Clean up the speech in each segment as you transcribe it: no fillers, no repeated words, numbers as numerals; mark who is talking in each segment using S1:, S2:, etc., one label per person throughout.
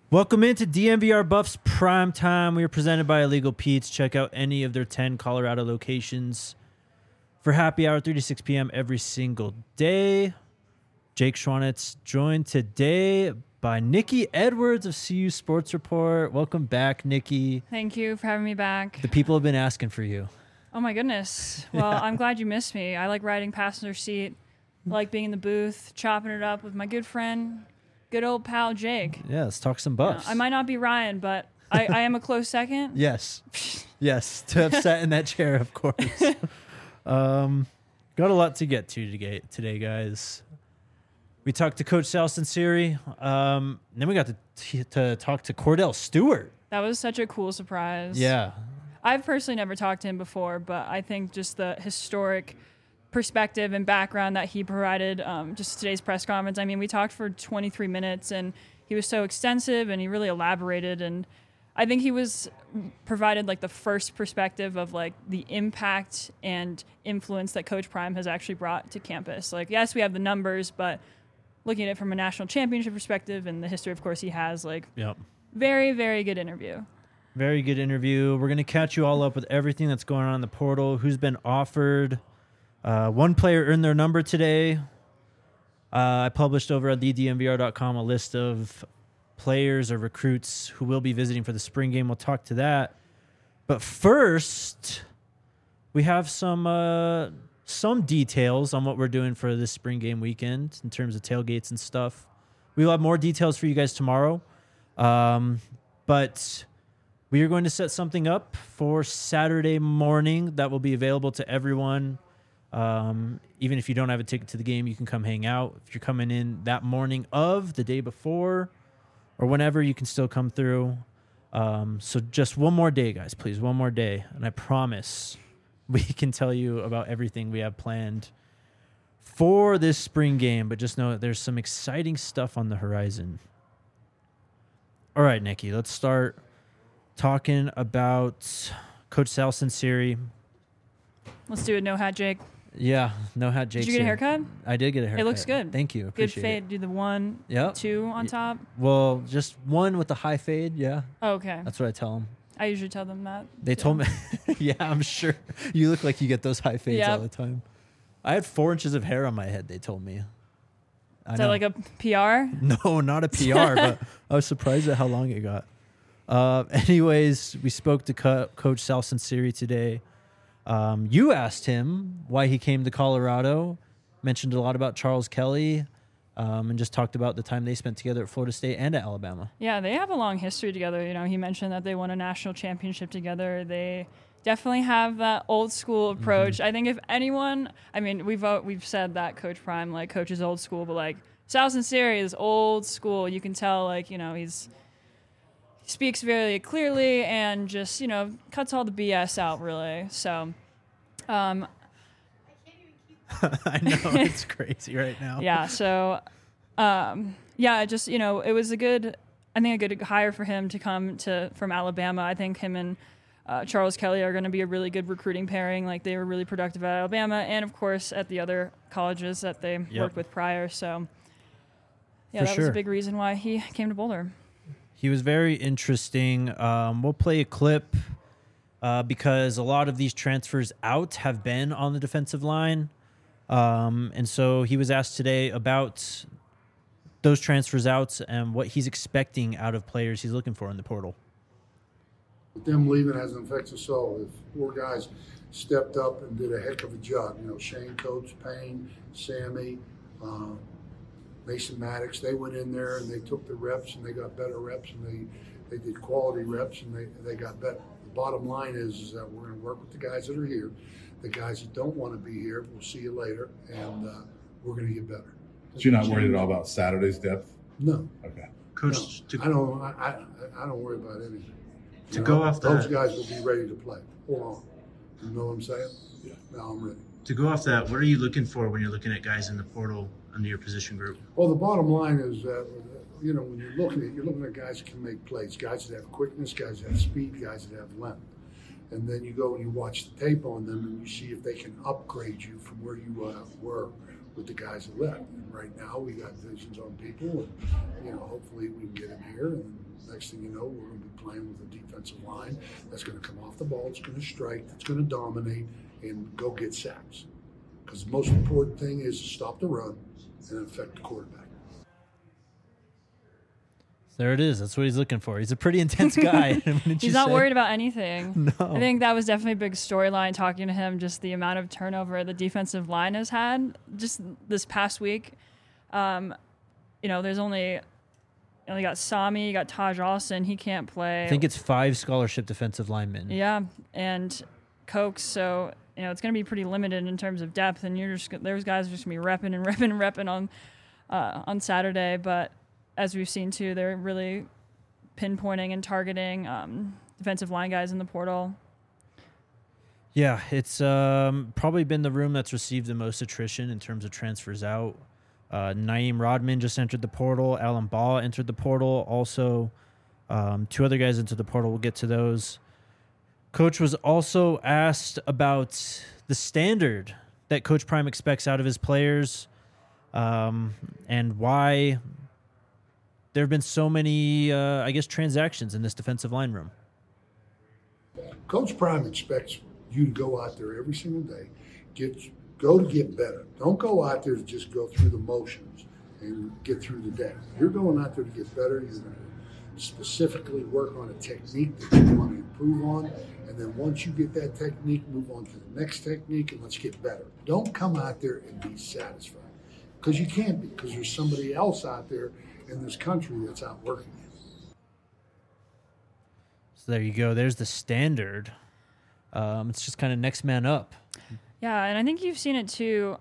S1: Welcome into DNVR Buffs Prime Time. We are presented by Illegal Pete's. Check out any of their 10 Colorado locations for happy hour, 3 to 6 p.m. every single day. Jake Schwanitz joined today by Nikki Edwards of CU Sports Report. Welcome back, Nikki.
S2: Thank you for having me back.
S1: The people have been asking for you.
S2: Oh, my goodness. Well, I'm glad you missed me. I like riding passenger seat. I like being in the booth, chopping it up with my good friend, good old pal Jake.
S1: Yeah, let's talk some Buffs.
S2: I might not be Ryan, but I am a close second.
S1: Yes. Yes, to have sat in that chair, of course. Got a lot to get to today, guys. We talked to Coach Sal Sunseri. Then we got to talk to Cordell Stewart.
S2: That was such a cool surprise.
S1: Yeah.
S2: I've personally never talked to him before, but I think just the historic perspective and background that he provided just today's press conference. I mean, we talked for 23 minutes, and he was so extensive, and he really elaborated, and I think he was provided like the first perspective of like the impact and influence that Coach Prime has actually brought to campus. Like, yes, we have the numbers, but looking at it from a national championship perspective and the history, of course, he has, like, very, very good interview.
S1: Very good interview. We're going to catch you all up with everything that's going on in the portal, who's been offered. One player earned their number today. I published over at thednvr.com a list of players or recruits who will be visiting for the spring game. We'll talk to that. But first, we have some details on what we're doing for this spring game weekend in terms of tailgates and stuff. We will have more details for you guys tomorrow. But we are going to set something up for Saturday morning that will be available to everyone. Even if you don't have a ticket to the game, you can come hang out. If you're coming in that morning of the day before or whenever, you can still come through. So just one more day, guys, please. One more day. And I promise we can tell you about everything we have planned for this spring game. But just know that there's some exciting stuff on the horizon. All right, Nikki, let's start talking about Coach Sal Sunseri.
S2: Let's do it. No hat, Jake.
S1: Yeah, no hat, Jake.
S2: Did you get a haircut?
S1: I did get a haircut.
S2: It looks good.
S1: Thank you.
S2: Good
S1: Appreciate
S2: fade.
S1: it.
S2: Do the 1, 2 on top.
S1: Well, just one with the high fade. Yeah.
S2: Oh, okay.
S1: That's what I tell them.
S2: I usually tell them that.
S1: They told me. Yeah, I'm sure you look like you get those high fades all the time. I had 4 inches of hair on my head. They told me.
S2: Is that like a PR?
S1: No, not a PR, but I was surprised at how long it got. Anyways, we spoke to Coach Sal Sunseri today. You asked him why he came to Colorado, mentioned a lot about Charles Kelly, and just talked about the time they spent together at Florida State and at Alabama. Yeah,
S2: they have a long history together. You know, he mentioned that they won a national championship together. They definitely have that old school approach. Mm-hmm. I think if anyone, I mean, we've said that Coach Prime, like, coaches old school, but like Sal Sunseri is old school. You can tell, like, you know, he speaks very clearly and just, you know, cuts all the BS out, really. So,
S1: I know, it's crazy right now.
S2: Yeah. So, just, you know, it was a good hire for him to come from Alabama. I think him and Charles Kelly are going to be a really good recruiting pairing. Like, they were really productive at Alabama and, of course, at the other colleges that they worked with prior. So, yeah, that was a big reason why he came to Boulder.
S1: He was very interesting. We'll play a clip because a lot of these transfers out have been on the defensive line. And so he was asked today about those transfers out and what he's expecting out of players he's looking for in the portal.
S3: Them leaving hasn't affected us all. If 4 guys stepped up and did a heck of a job, you know, Shane Coates, Payne, Sammy, Mason Maddox, they went in there and they took the reps and they got better reps and they did quality reps and they got better. The bottom line is that we're going to work with the guys that are here. The guys that don't want to be here, we'll see you later, and we're going to get better.
S4: So you're not worried at all about Saturday's depth?
S3: No.
S4: Okay.
S3: Coach, no, I don't worry about anything.
S1: To go off that,
S3: those guys will be ready to play. Hold on. You know what I'm saying?
S4: Yeah.
S3: Now I'm ready.
S1: To go off that, what are you looking for when you're looking at guys in the portal under your position group?
S3: Well, the bottom line is that, you know, when you're looking at guys that can make plays, guys that have quickness, guys that have speed, guys that have length. And then you go and you watch the tape on them and you see if they can upgrade you from where you were with the guys that left. And right now we got visions on people, and, you know, hopefully we can get them here and next thing you know, we're going to be playing with a defensive line that's going to come off the ball, it's going to strike, it's going to dominate, and go get sacks. Because the most important thing is to stop the run and affect the quarterback.
S1: There it is. That's what he's looking for. He's a pretty intense guy.
S2: He's not worried about anything.
S1: No.
S2: I think that was definitely a big storyline talking to him, just the amount of turnover the defensive line has had just this past week. There's only got Sami, you got Taj Austin. He can't play.
S1: I think it's 5 scholarship defensive linemen.
S2: Yeah, and Cokes. So, it's going to be pretty limited in terms of depth, and there's guys are just going to be repping and repping and repping on Saturday. But as we've seen too, they're really pinpointing and targeting defensive line guys in the portal.
S1: Yeah, it's probably been the room that's received the most attrition in terms of transfers out. Naeem Rodman just entered the portal. Alan Baugh entered the portal. Also, 2 other guys into the portal. We'll get to those. Coach was also asked about the standard that Coach Prime expects out of his players, and why there have been so many, transactions in this defensive line room.
S3: Coach Prime expects you to go out there every single day, go to get better. Don't go out there to just go through the motions and get through the day. You're going out there to get better. You're going to specifically work on a technique that you want to improve on. And then once you get that technique, move on to the next technique and let's get better. Don't come out there and be satisfied. Because you can't be, because there's somebody else out there in this country that's out working you.
S1: So there you go. There's the standard. It's just kind of next man up.
S2: Yeah, and I think you've seen it too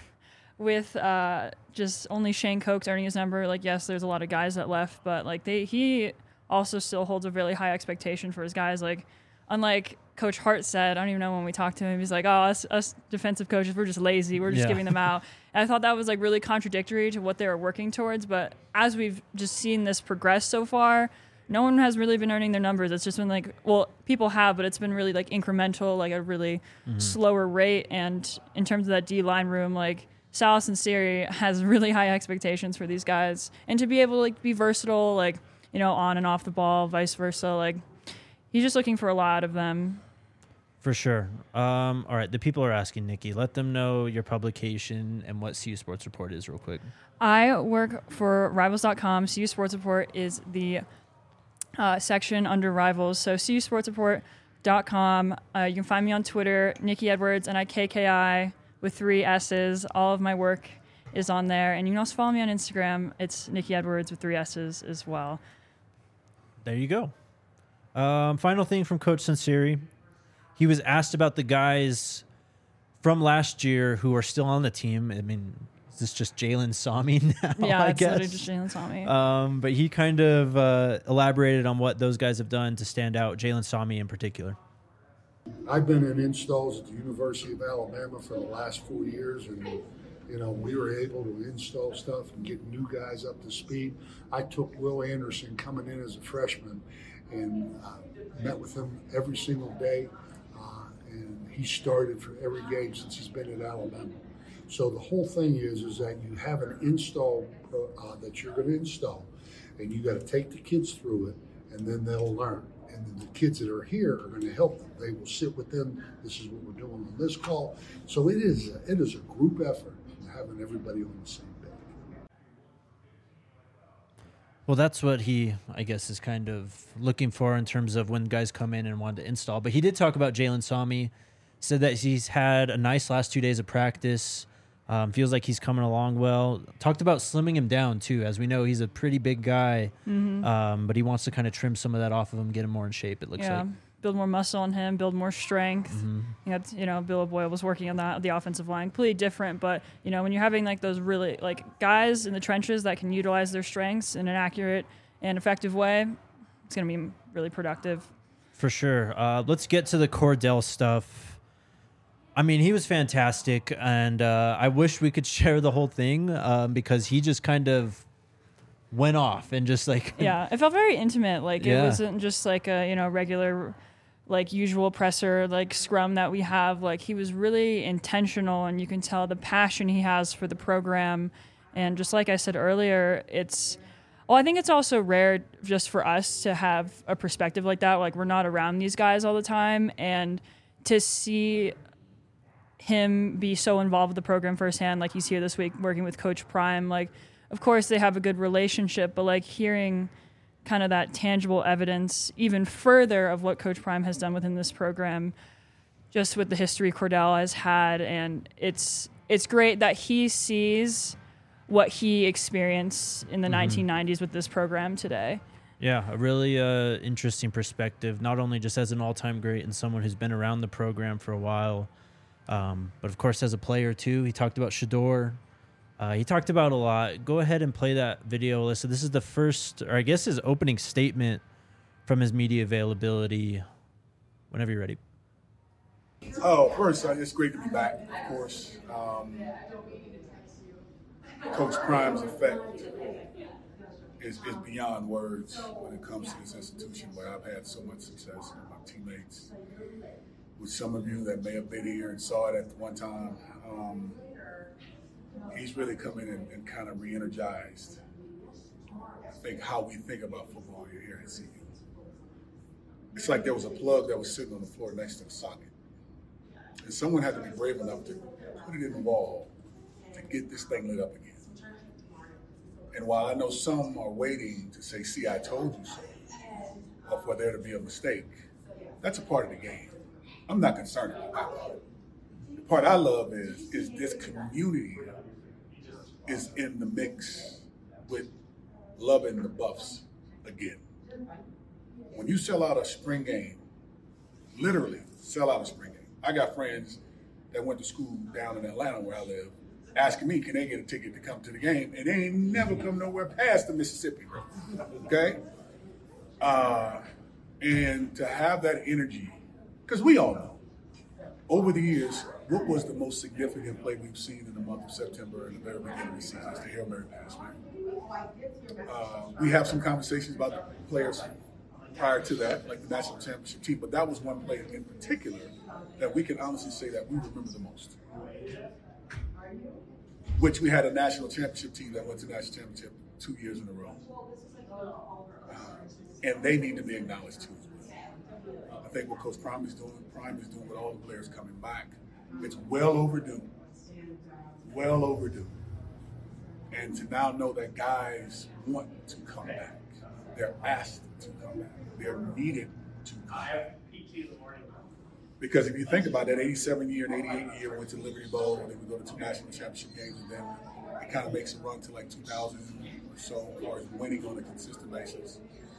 S2: with just only Shane Cokes earning his number. Like, yes, there's a lot of guys that left, but he also still holds a really high expectation for his guys. Like, unlike Coach Hart said, I don't even know when we talked to him, he's like, oh, us defensive coaches, we're just lazy. We're just giving them out. And I thought that was really contradictory to what they were working towards. But as we've just seen this progress so far, no one has really been earning their numbers. It's just been people have, but it's been really incremental, a really slower rate. And in terms of that D-line room, Salas and Siri has really high expectations for these guys. And to be able to be versatile, on and off the ball, vice versa, he's just looking for a lot of them.
S1: For sure. All right, the people are asking, Nikki. Let them know your publication and what CU Sports Report is real quick.
S2: I work for Rivals.com. CU Sports Report is the section under Rivals. So CUSportsReport.com. You can find me on Twitter, Nikki Edwards, NIKKI with 3 S's. All of my work is on there. And you can also follow me on Instagram. It's Nikki Edwards with 3 S's as well.
S1: There you go. Final thing from Coach Sunseri. He was asked about the guys from last year who are still on the team. I mean, is this just Jalen Sami now?
S2: Yeah,
S1: it's
S2: literally just Jalen Sami.
S1: But he kind of elaborated on what those guys have done to stand out, Jalen Sami in particular.
S3: I've been in installs at the University of Alabama for the last 4 years, and we were able to install stuff and get new guys up to speed. I took Will Anderson coming in as a freshman and met with him every single day. And he started for every game since he's been at Alabama. So the whole thing is that you have an install that you're going to install, and you got to take the kids through it, and then they'll learn. And then the kids that are here are going to help them. They will sit with them. This is what we're doing on this call. So it is a group effort, having everybody on the same page.
S1: Well, that's what he, I guess, is kind of looking for in terms of when guys come in and want to install. But he did talk about Jalen Sami, said that he's had a nice last 2 days of practice, feels like he's coming along well. Talked about slimming him down, too. As we know, he's a pretty big guy, but he wants to kind of trim some of that off of him, get him more in shape, it looks like.
S2: Build more muscle on him, build more strength. Bill O'Boyle was working on that, the offensive line, completely different. But, when you're having those really guys in the trenches that can utilize their strengths in an accurate and effective way, it's going to be really productive.
S1: For sure. Let's get to the Cordell stuff. I mean, he was fantastic, and I wish we could share the whole thing because he just kind of went off and just
S2: Yeah, it felt very intimate. It wasn't just a, regular usual presser scrum that we have. He was really intentional, and you can tell the passion he has for the program. And just like I said earlier, it's Well, I think it's also rare just for us to have a perspective like that. Like, we're not around these guys all the time, and to see him be so involved with the program firsthand, like he's here this week working with Coach Prime. Like, of course they have a good relationship, but like hearing kind of that tangible evidence even further of what Coach Prime has done within this program, just with the history Cordell has had, and it's great that he sees what he experienced in the 1990s with this program today.
S1: Yeah, a really interesting perspective, not only just as an all-time great and someone who's been around the program for a while, but of course as a player too. He talked about Shedeur. He talked about a lot. Go ahead and play that video, Alyssa. This is the first, or I guess his opening statement from his media availability. Whenever you're ready.
S5: Oh, first, it's great to be back, of course. Coach Prime's effect is beyond words when it comes to this institution where I've had so much success with my teammates. With some of you that may have been here and saw it at one time, he's really come in and kind of re-energized, I think, how we think about football here at CU. It's like there was a plug that was sitting on the floor next to the socket. And someone had to be brave enough to put it in the wall to get this thing lit up again. And while I know some are waiting to say, see, I told you so, or for there to be a mistake, that's a part of the game. I'm not concerned about that. The part I love is this community is in the mix with loving the Buffs again. When you sell out a spring game, literally sell out a spring game. I got friends that went to school down in Atlanta where I live, asking me, can they get a ticket to come to the game? And they ain't never come nowhere past the Mississippi, bro. Okay? And to have that energy, because we all know, over the years, what was the most significant play we've seen in the month of September and the very beginning of the season? It's the Hail Mary pass, man. We have some conversations about the players prior to that, like the national championship team, but that was one play in particular that we can honestly say that we remember the most. Which we had a national championship team that went to national championship 2 years in a row. And they need to be acknowledged too. I think what Coach Prime is doing with all the players coming back, it's well overdue. Well overdue. And to now know that guys want to come back. They're asked to come back. They're needed to come back. Because if you think about that 87 year and 88 year, went to Liberty Bowl, and then we go to 2 national championship games, and then it kind of makes a run to like 2000 or so, as far as winning on a consistent basis.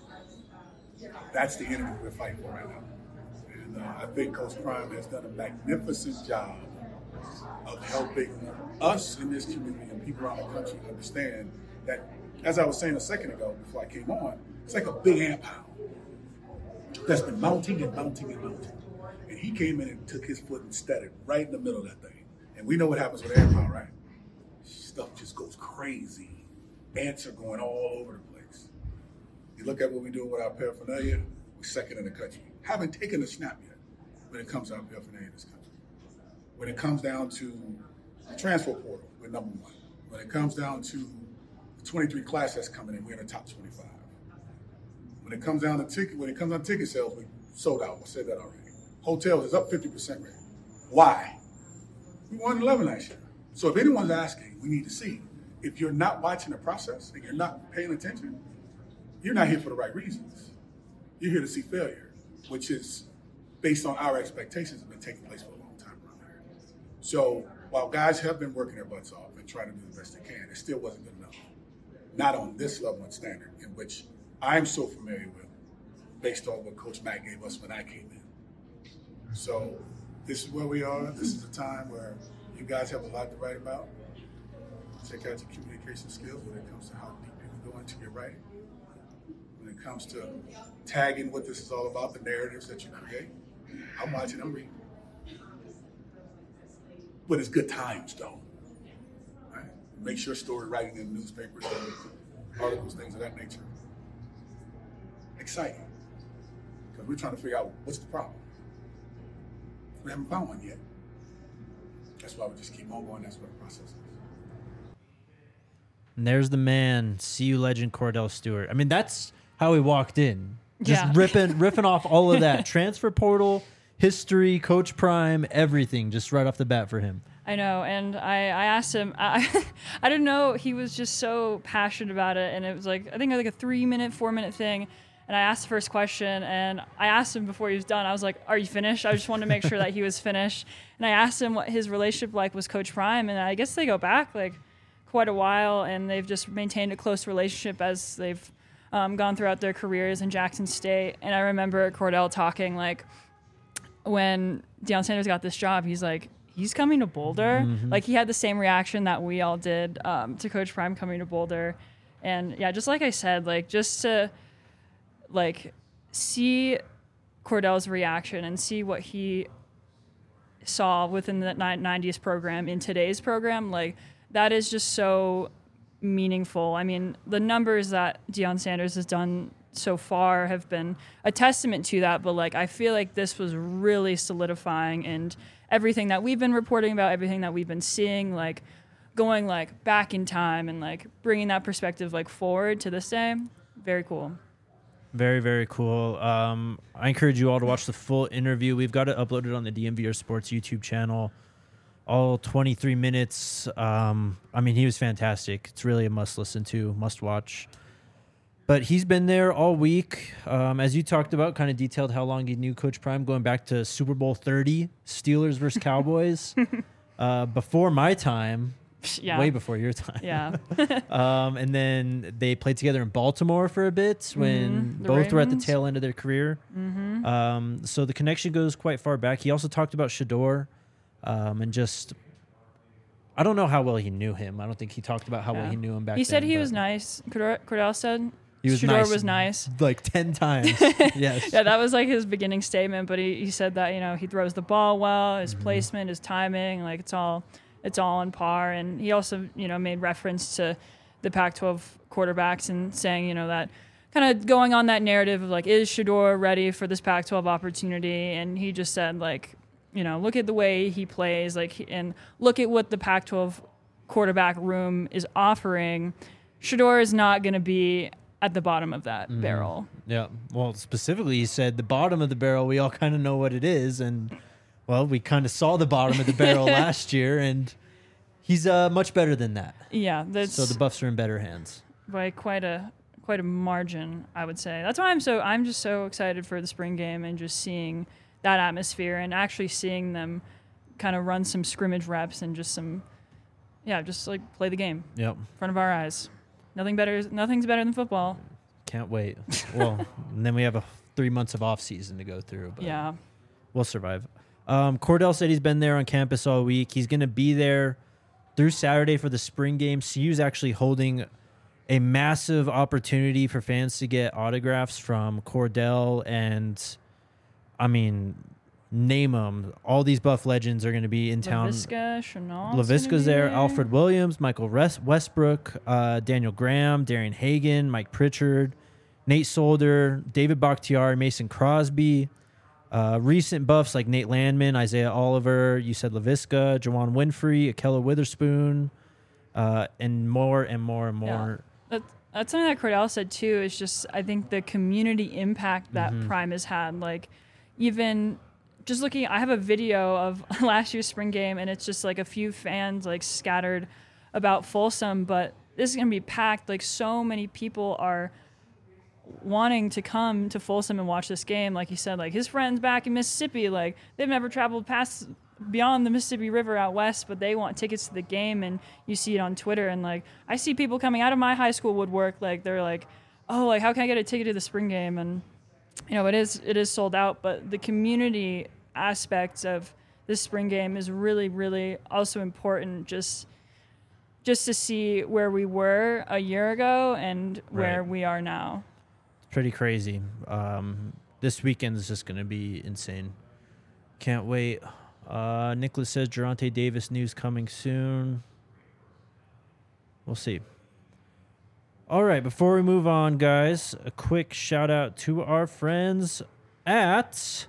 S5: That's the energy we're fighting for right now. And I think Coach Prime has done a magnificent job of helping us in this community and people around the country understand that, as I was saying a second ago before I came on, it's like a big ant pile that's been mounting and mounting and mounting. And he came in and took his foot and steadied right in the middle of that thing. And we know what happens with ant pile, right? Stuff just goes crazy. Ants are going all over the place. You look at what we're doing with our paraphernalia, we're second in the country. Haven't taken a snap yet when it comes to our paraphernalia in this country. When it comes down to the transfer portal, we're number 1. When it comes down to the 23 class that's coming in, we're in the top 25. When it comes down to ticket sales, we sold out. I said that already. Hotels is up 50% rate. Why? We won 11 last year. So if anyone's asking, we need to see. If you're not watching the process and you're not paying attention, you're not here for the right reasons. You're here to see failure, which is based on our expectations have been taking place for a long time around here. So while guys have been working their butts off and trying to do the best they can, it still wasn't good enough. Not on this level and standard, in which I'm so familiar with, based on what Coach Mack gave us when I came in. So this is where we are. This is a time where you guys have a lot to write about. Check out your communication skills when it comes to how deep you can go into your writing. When it comes to tagging what this is all about, the narratives that you create. I'm watching, I'm reading. But it's good times, though. Right? Make sure story writing in newspapers, articles, things of that nature. Exciting. Because we're trying to figure out what's the problem. We haven't found one yet. That's why we just keep on going. That's what the process is.
S1: And there's the man, CU legend Cordell Stewart. I mean, that's how he walked in. Just
S2: Yeah.
S1: ripping off all of that. Transfer portal, history, Coach Prime, everything just right off the bat for him.
S2: I know, and I asked him. I didn't know he was just so passionate about it, and it was like I think like a 3-minute, 4-minute thing. And I asked the first question, and I asked him before he was done. I was like, "Are you finished?" I just wanted to make sure that he was finished. And I asked him what his relationship like was Coach Prime, and I guess they go back like quite a while, and they've just maintained a close relationship as they've gone throughout their careers in Jackson State. And I remember Cordell talking like when Deion Sanders got this job, he's like, he's coming to Boulder.
S1: Mm-hmm.
S2: Like he had the same reaction that we all did to Coach Prime coming to Boulder. And yeah, just like I said, like just to like see Cordell's reaction and see what he saw within the 90s program in today's program, like that is just so meaningful. I mean, the numbers that Deion Sanders has done so far have been a testament to that, but like I feel like this was really solidifying, and everything that we've been reporting about, everything that we've been seeing, like going like back in time and like bringing that perspective like forward to this day, very cool.
S1: Very, very cool. I encourage you all to watch the full interview. We've got it uploaded on the DMVR Sports YouTube channel. All 23 minutes. I mean, he was fantastic. It's really a must listen to, must watch. But he's been there all week. As you talked about, kind of detailed how long he knew Coach Prime, going back to Super Bowl 30, Steelers versus Cowboys. Before my time.
S2: Yeah.
S1: Way before your time.
S2: Yeah.
S1: And then they played together in Baltimore for a bit when
S2: The
S1: both were at the
S2: Ravens.
S1: tail end of their career. So the connection goes quite far back. He also talked about Shador and just, I don't know how well he knew him. I don't think he talked about how well
S2: Yeah.
S1: he knew him back
S2: He
S1: then.
S2: said he
S1: but
S2: was nice. Cordell said
S1: He was
S2: Shador
S1: nice.
S2: was nice.
S1: Like 10 times. Yes.
S2: Yeah, that was like his beginning statement, but he said that, you know, he throws the ball well, his placement, his timing, like it's all on par. And he also, you know, made reference to the Pac-12 quarterbacks and saying, you know, that kind of going on that narrative of like, is Shador ready for this Pac-12 opportunity? And he just said like, you know, look at the way he plays, like, and look at what the Pac-12 quarterback room is offering. Shador is not going to be at the bottom of that barrel.
S1: Yeah. Well, specifically, he said the bottom of the barrel, we all kind of know what it is. And, well, we kind of saw the bottom of the barrel last year, and he's much better than that.
S2: Yeah, that's
S1: So the Buffs are in better hands.
S2: by quite a margin, I would say. That's why I'm just so excited for the spring game and just seeing that atmosphere and actually seeing them kind of run some scrimmage reps and just just like play the game
S1: Yep.
S2: in front of our eyes. Nothing's better than football.
S1: Can't wait. Well, and then we have 3 months of off season to go through. But
S2: Yeah.
S1: we'll survive. Cordell said he's been there on campus all week. He's going to be there through Saturday for the spring game. CU's actually holding a massive opportunity for fans to get autographs from Cordell and, I mean, name them. All these Buff legends are going to be in town.
S2: Laviska, Chenault.
S1: LaVisca's there, Alfred Williams, Michael Westbrook, Daniel Graham, Darian Hagan, Mike Pritchard, Nate Solder, David Bakhtiari, Mason Crosby. Recent Buffs like Nate Landman, Isaiah Oliver, you said LaVisca, Jawan Winfrey, Akella Witherspoon, and more and more and more.
S2: That's something that Cordell said too, is just I think the community impact that Prime has had. Like even just looking, I have a video of last year's spring game, and it's just like a few fans like scattered about Folsom, but this is gonna be packed. Like so many people are wanting to come to Folsom and watch this game. Like he said, like his friends back in Mississippi, like they've never traveled past beyond the Mississippi River out west, but they want tickets to the game, and you see it on Twitter. And like I see people coming out of my high school woodwork, like they're like, oh, like how can I get a ticket to the spring game? And you know, it is sold out, but the community aspects of this spring game is really, really also important. Just to see where we were a year ago and where
S1: Right.
S2: we are now.
S1: Pretty crazy. This weekend is just going to be insane. Can't wait. Nicholas says Geronte Davis news coming soon. We'll see. All right, before we move on, guys, a quick shout out to our friends at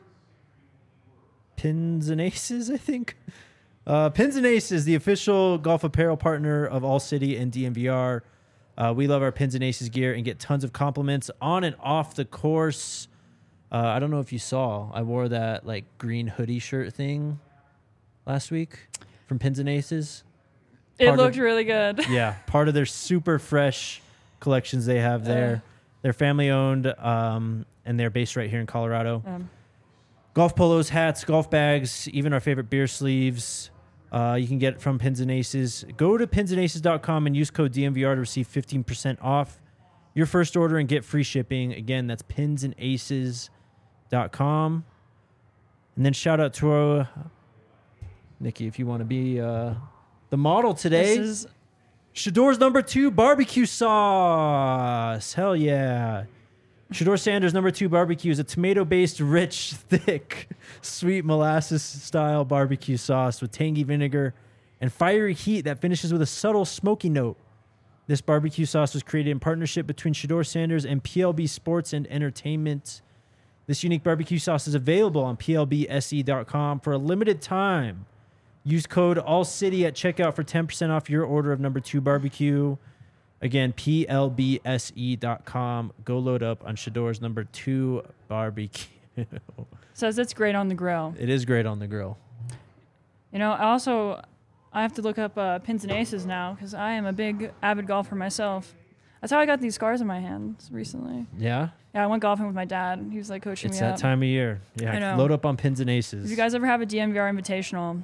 S1: Pins and Aces, I think. Pins and Aces, the official golf apparel partner of All City and DMVR. We love our Pins and Aces gear and get tons of compliments on and off the course. I don't know if you saw, I wore that like green hoodie shirt thing last week from Pins and Aces.
S2: It looked really good.
S1: Yeah, part of their super fresh collections they have there. They're family owned, and they're based right here in Colorado. Golf polos, hats, golf bags, even our favorite beer sleeves. You can get it from Pins and Aces. Go to pinsandaces.com and use code DMVR to receive 15% off your first order and get free shipping. Again, that's pinsandaces.com. And then shout out to Nikki, if you want to be the model today.
S2: This is
S1: Shador's number 2 barbecue sauce. Hell yeah. Shador Sanders number 2 barbecue is a tomato-based, rich, thick, sweet molasses-style barbecue sauce with tangy vinegar and fiery heat that finishes with a subtle smoky note. This barbecue sauce was created in partnership between Shador Sanders and PLB Sports and Entertainment. This unique barbecue sauce is available on plbse.com for a limited time. Use code ALLCITY at checkout for 10% off your order of number 2 barbecue. Again, plbse.com. Go load up on Shador's number 2 barbecue.
S2: says it's great on the grill.
S1: It is great on the grill.
S2: You know, I have to look up Pins and Aces now because I am a big avid golfer myself. That's how I got these scars in my hands recently.
S1: Yeah?
S2: Yeah, I went golfing with my dad. He was like coaching
S1: It's
S2: me
S1: that
S2: up.
S1: time of year.
S2: I
S1: Yeah,
S2: know.
S1: load up on Pins and Aces.
S2: If you guys ever have a DMVR invitational,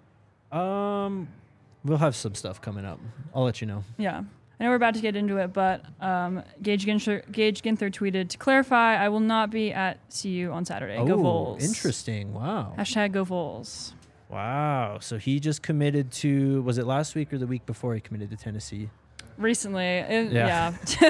S1: We'll have some stuff coming up. I'll let you know.
S2: yeah. I know we're about to get into it, but Gage Ginther tweeted, to clarify, I will not be at CU on Saturday. Go Vols.
S1: Interesting. Wow.
S2: Hashtag Go Vols.
S1: Wow. So he just committed to, was it last week or the week before he committed to Tennessee?
S2: Recently.
S1: Yeah.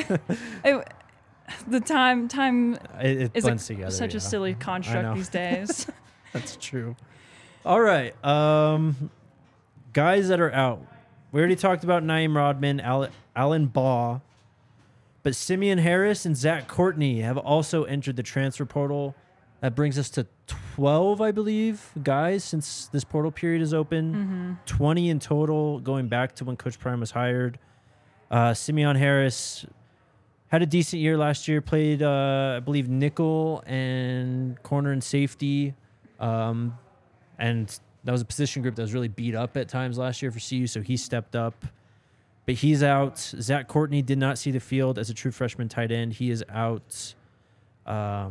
S2: The time
S1: It
S2: is
S1: blends together.
S2: such a
S1: yeah.
S2: silly
S1: I know.
S2: construct these days.
S1: That's true. All right. Guys that are out. We already talked about Naeem Rodman, Alan Baugh, but Simeon Harris and Zach Courtney have also entered the transfer portal. That brings us to 12, I believe, guys, since this portal period is open. 20 in total, going back to when Coach Prime was hired. Simeon Harris had a decent year last year, played, I believe, nickel and corner and safety. And that was a position group that was really beat up at times last year for CU, so he stepped up. But he's out. Zach Courtney did not see the field as a true freshman tight end. He is out. I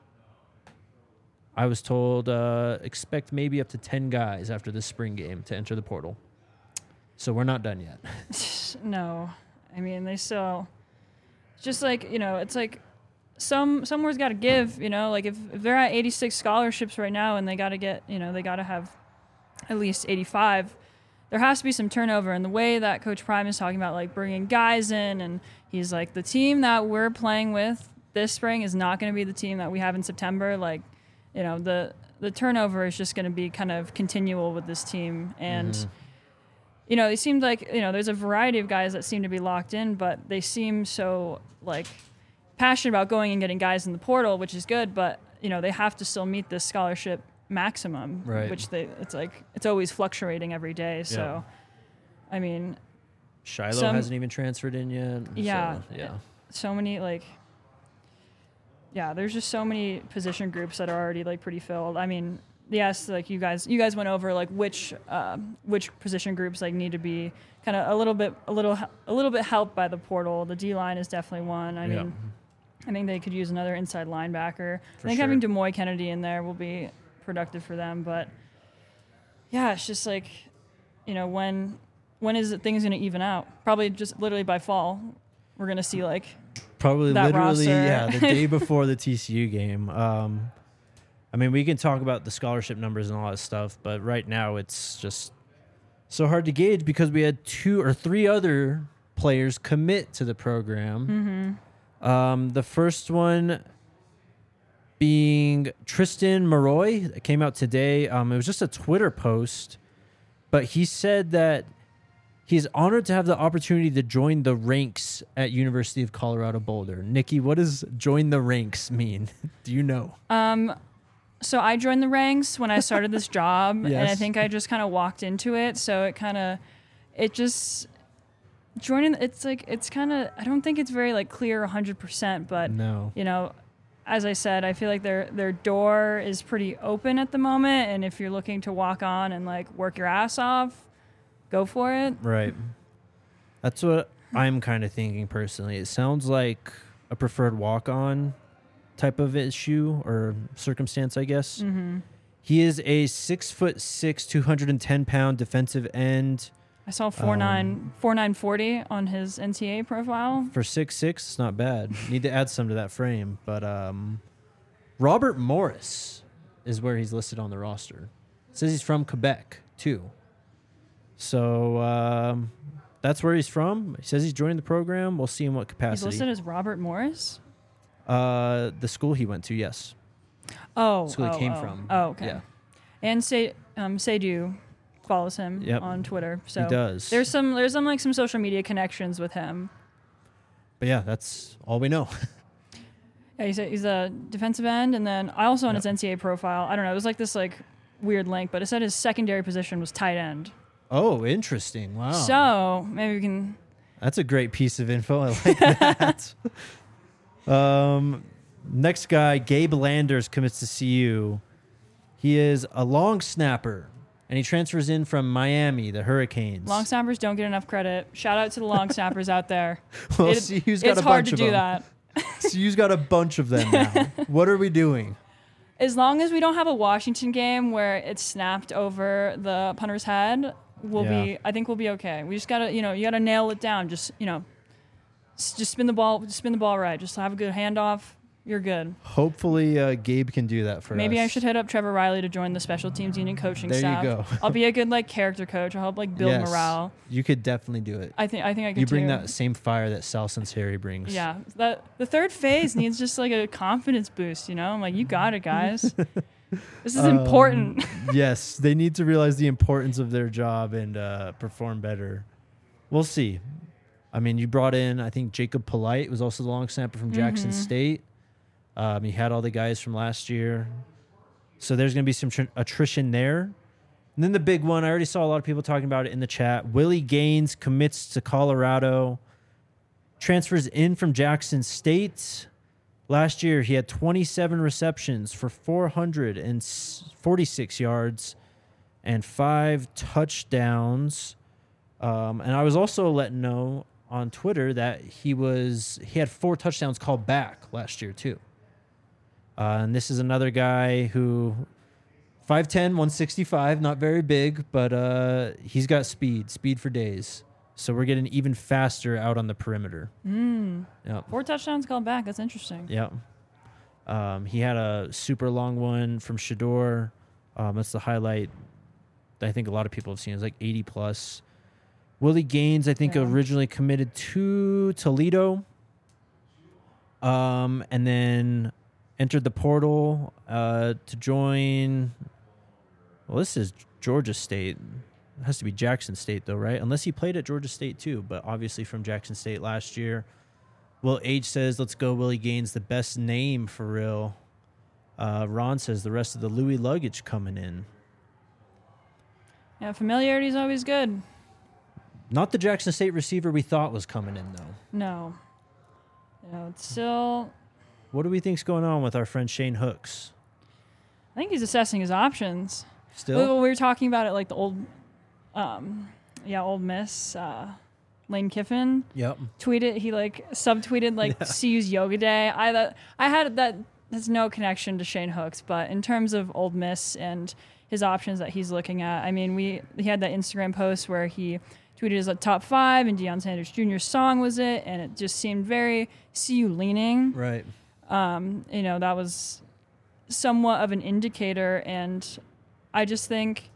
S1: was told expect maybe up to 10 guys after the spring game to enter the portal. So we're not done yet.
S2: No. I mean, they still... It's just like, you know, it's like somewhere's got to give, you know? Like if they're at 86 scholarships right now and they got to get, you know, they got to have at least 85, there has to be some turnover. And the way that Coach Prime is talking about, like, bringing guys in, and he's like, the team that we're playing with this spring is not going to be the team that we have in September. Like, you know, the turnover is just going to be kind of continual with this team. And, you know, it seemed like, you know, there's a variety of guys that seem to be locked in, but they seem so, like, passionate about going and getting guys in the portal, which is good, but, you know, they have to still meet this scholarship maximum,
S1: Right.
S2: which it's like, it's always fluctuating every day. So, I mean,
S1: Shiloh hasn't even transferred in yet.
S2: Yeah.
S1: So, yeah.
S2: so many, like, yeah, there's just so many position groups that are already, like, pretty filled. I mean, yes, like you guys went over, like, which position groups, like, need to be kind of a little bit helped by the portal. The D line is definitely one. I mean, I think they could use another inside linebacker. I think having Demoy Kennedy in there will be productive for them. But yeah, it's just like, you know, when is things going to even out? Probably just literally by fall, we're going to see, like,
S1: probably
S2: that
S1: literally,
S2: roster.
S1: the day before the TCU game. I mean, we can talk about the scholarship numbers and all that stuff, but right now it's just so hard to gauge because we had 2 or 3 other players commit to the program. The first one being Tristan Maroy. It came out today. It was just a Twitter post, but he said that he's honored to have the opportunity to join the ranks at University of Colorado Boulder. Nikki, what does join the ranks mean? Do you know?
S2: So I joined the ranks when I started this job, and I
S1: Yes.
S2: think I just kind of walked into it. So it joining, it's kind of, I don't think it's very like clear 100%, but
S1: No.
S2: you know, as I said, I feel like their door is pretty open at the moment, and if you're looking to walk on and like work your ass off, go for it.
S1: Right. That's what I'm kind of thinking personally. It sounds like a preferred walk-on type of issue or circumstance, I guess.
S2: Mm-hmm.
S1: He is a 6'6", 210-pound defensive end.
S2: I saw 4'9", on his NCAA profile.
S1: For 6'6", it's not bad. Need to add some to that frame. But Robert Morris is where he's listed on the roster. It says he's from Quebec, too. So that's where he's from. He says he's joining the program. We'll see in what capacity.
S2: He's listed as Robert Morris?
S1: The school he went to, yes.
S2: Oh.
S1: School he came from.
S2: Oh, okay.
S1: Yeah.
S2: And Seydou follows him on Twitter. So
S1: he does.
S2: There's some social media connections with him.
S1: But yeah, that's all we know.
S2: Yeah, he's a defensive end, and then I also on his NCAA profile, I don't know, it was like this like weird link, but it said his secondary position was tight end.
S1: Oh, interesting. Wow.
S2: So maybe we can.
S1: That's a great piece of info. I like that. Next guy, Gabe Landers commits to CU. He is a long snapper, and he transfers in from Miami, the Hurricanes.
S2: Long snappers don't get enough credit. Shout out to the long snappers out there.
S1: Well, CU's got
S2: it's
S1: a
S2: hard
S1: bunch
S2: to
S1: of
S2: do
S1: them.
S2: that.
S1: CU's got a bunch of them now. What are we doing?
S2: As long as we don't have a Washington game where it's snapped over the punter's head, I think we'll be okay. We just gotta, you gotta nail it down. Just spin the ball right. Just have a good handoff. You're good.
S1: Hopefully, Gabe can do that for us.
S2: Maybe I should hit up Trevor Riley to join the special teams unit coaching staff.
S1: There you go.
S2: I'll be a good character coach. I'll help build
S1: Yes,
S2: morale.
S1: You could definitely do it.
S2: I think I could.
S1: You bring
S2: too.
S1: that same fire that Sal Sunseri brings.
S2: Yeah, the third phase needs just like a confidence boost. I'm like, you got it, guys. This is important.
S1: Yes, they need to realize the importance of their job and perform better. We'll see. I mean, you brought in, I think, Jacob Polite was also the long snapper from Jackson State. He had all the guys from last year. So there's going to be some attrition there. And then the big one, I already saw a lot of people talking about it in the chat. Willie Gaines commits to Colorado, transfers in from Jackson State. Last year, he had 27 receptions for 446 yards and 5 touchdowns. And I was also letting know on Twitter that he had 4 touchdowns called back last year, too. And this is another guy who 5'10", 165, not very big, but he's got speed for days. So we're getting even faster out on the perimeter. Yep.
S2: 4 touchdowns called back. That's interesting.
S1: Yeah. He had a super long one from Shador. That's the highlight that I think a lot of people have seen. It's like 80+. Willie Gaines, I think, originally committed to Toledo. And then entered the portal to join. Well, this is Georgia State. It has to be Jackson State, though, right? Unless he played at Georgia State, too, but obviously from Jackson State last year. Will H says, let's go, Willie Gaines, the best name for real. Ron says, the rest of the Louis luggage coming in.
S2: Yeah, familiarity is always good.
S1: Not the Jackson State receiver we thought was coming in, though.
S2: No. It's still...
S1: What do we think's going on with our friend Shane Hooks?
S2: I think he's assessing his options.
S1: Still?
S2: Well, we were talking about it like the old Miss, Lane Kiffin.
S1: Yep.
S2: Tweeted, he subtweeted CU's yoga day. I had that has no connection to Shane Hooks, but in terms of Old Miss and his options that he's looking at, I mean, he had that Instagram post where he tweeted his top 5 and Deion Sanders Jr.'s song was it, and it just seemed very CU leaning.
S1: Right.
S2: That was somewhat of an indicator, and I just think,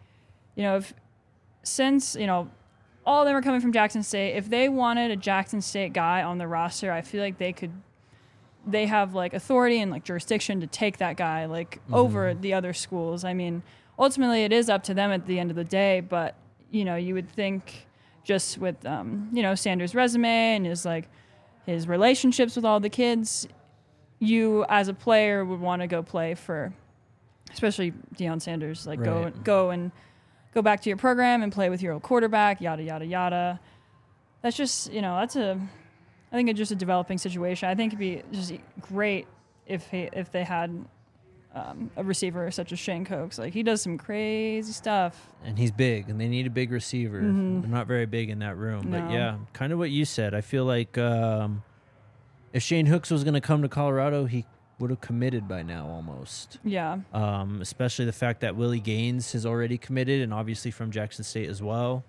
S2: since all of them are coming from Jackson State, if they wanted a Jackson State guy on the roster, I feel like they have authority and jurisdiction to take that guy over the other schools. I mean, ultimately it is up to them at the end of the day, but you would think just with Sanders' resume and his relationships with all the kids, you as a player would want to go play for, especially Deion Sanders,
S1: Right.
S2: go back to your program and play with your old quarterback, yada yada yada. that's just, I think it's just a developing situation. I think it'd be just great if they had a receiver such as Shane Cokes. Like, he does some crazy stuff.
S1: And he's big, and they need a big receiver.
S2: Mm-hmm.
S1: They're not very big in that room.
S2: No.
S1: But, yeah, kind of what you said. I feel like if Shane Hooks was going to come to Colorado, he would have committed by now almost.
S2: Yeah.
S1: Especially the fact that Willie Gaines has already committed, and obviously from Jackson State as well.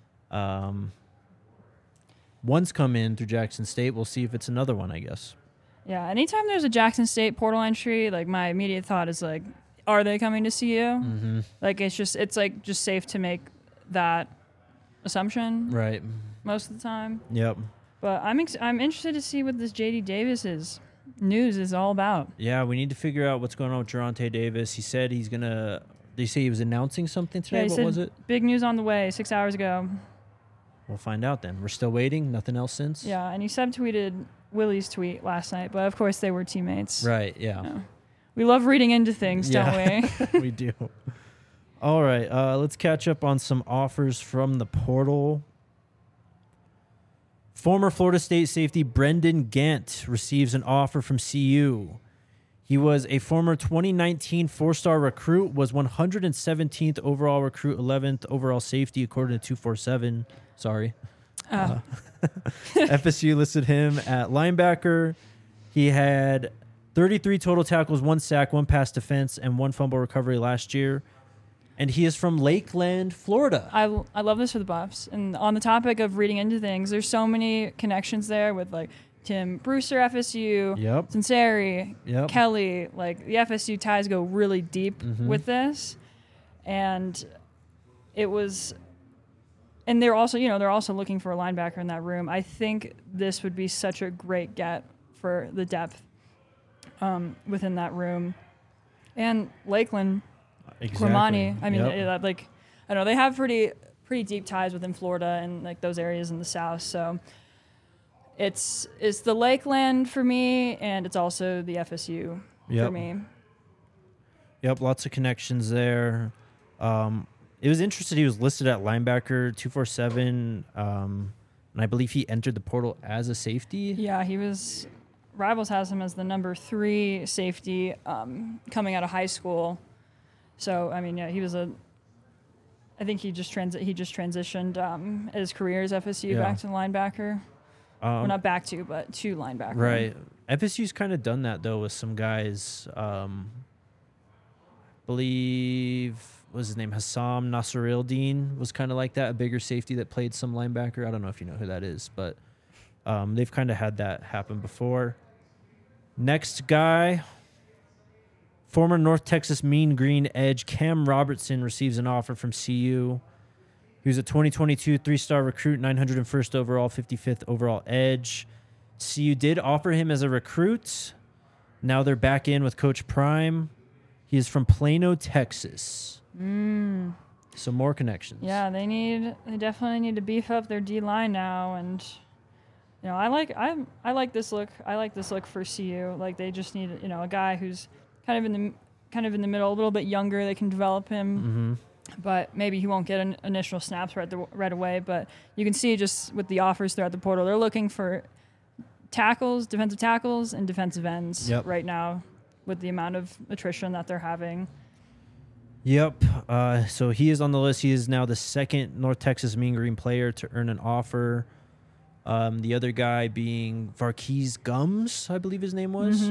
S1: One's come in through Jackson State. We'll see if it's another one, I guess.
S2: Yeah, anytime there's a Jackson State portal entry, like, my immediate thought is, like, are they coming to CU?
S1: Mm-hmm.
S2: Like, it's just safe to make that assumption
S1: Right.
S2: most of the time.
S1: Yep.
S2: But I'm interested to see what this J.D. Davis's news is all about.
S1: Yeah, we need to figure out what's going on with Geronte Davis. He said he's going to... Did he say he was announcing something today?
S2: Yeah, he
S1: What
S2: said,
S1: was it?
S2: big news on the way 6 hours ago.
S1: We'll find out then. We're still waiting. Nothing else since?
S2: Yeah, and he subtweeted Willie's tweet last night, but of course they were teammates.
S1: Right, yeah.
S2: Yeah. We love reading into things, don't we?
S1: We do. All right, let's catch up on some offers from the portal. Former Florida State safety Brendan Gant receives an offer from CU. He was a former 2019 four-star recruit, was 117th overall recruit, 11th overall safety, according to 247. Sorry. FSU listed him at linebacker. He had 33 total tackles, 1 sack, 1 pass defense, and 1 fumble recovery last year. And he is from Lakeland, Florida.
S2: I love this for the Buffs. And on the topic of reading into things, there's so many connections there with, like, Tim Brewster, FSU,
S1: Yep.
S2: Sinceri,
S1: Yep.
S2: Kelly. Like, the FSU ties go really deep with this. And it was... And they're also, they're also looking for a linebacker in that room. I think this would be such a great get for the depth within that room. And Lakeland,
S1: Exactly.
S2: Cormani. I mean,
S1: Yep.
S2: I don't know. They have pretty deep ties within Florida and, like, those areas in the South. So it's the Lakeland for me, and it's also the FSU for
S1: Yep.
S2: me.
S1: Yep, lots of connections there. It was interesting. He was listed at linebacker 247, and I believe he entered the portal as a safety.
S2: Yeah, he was. Rivals has him as the number 3 safety coming out of high school. So I mean, yeah, he was a. I think he just transitioned his career as FSU back to linebacker. Well, not back to, but to linebacker.
S1: Right. FSU's kind of done that though with some guys. Believe what was his name? Hassam Nasirildeen was kind of like that, a bigger safety that played some linebacker. I don't know if you know who that is, but they've kind of had that happen before. Next guy, former North Texas Mean Green edge Cam Robertson receives an offer from CU. He was a 2022 3-star recruit, 901st overall, 55th overall edge. CU did offer him as a recruit. Now they're back in with Coach Prime. He is from Plano, Texas. Some more connections.
S2: Yeah, they definitely need to beef up their D line now, and I like this look. I like this look for CU. Like, they just need a guy who's kind of in the middle, a little bit younger. They can develop him, but maybe he won't get initial snaps right away. But you can see just with the offers throughout the portal, they're looking for defensive tackles, and defensive ends right now with the amount of attrition that they're having.
S1: Yep. So he is on the list. He is now the second North Texas Mean Green player to earn an offer. The other guy being Varkey's Gums, I believe his name was.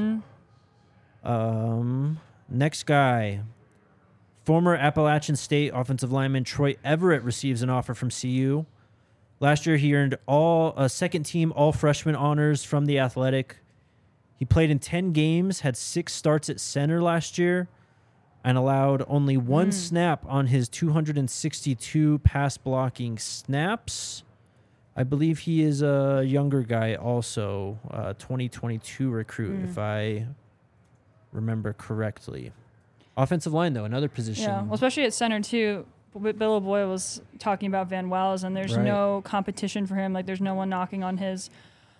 S1: Next guy, former Appalachian State offensive lineman Troy Everett receives an offer from CU. Last year, he earned second-team all-freshman honors from the Athletic. He played in 10 games, had 6 starts at center last year, and allowed only 1 snap on his 262 pass-blocking snaps. I believe he is a younger guy also, 2022 recruit, if I remember correctly. Offensive line, though, another position.
S2: Yeah, well, especially at center, too. Bill O'Boyle was talking about Van Wells, and there's no competition for him. Like, there's no one knocking on his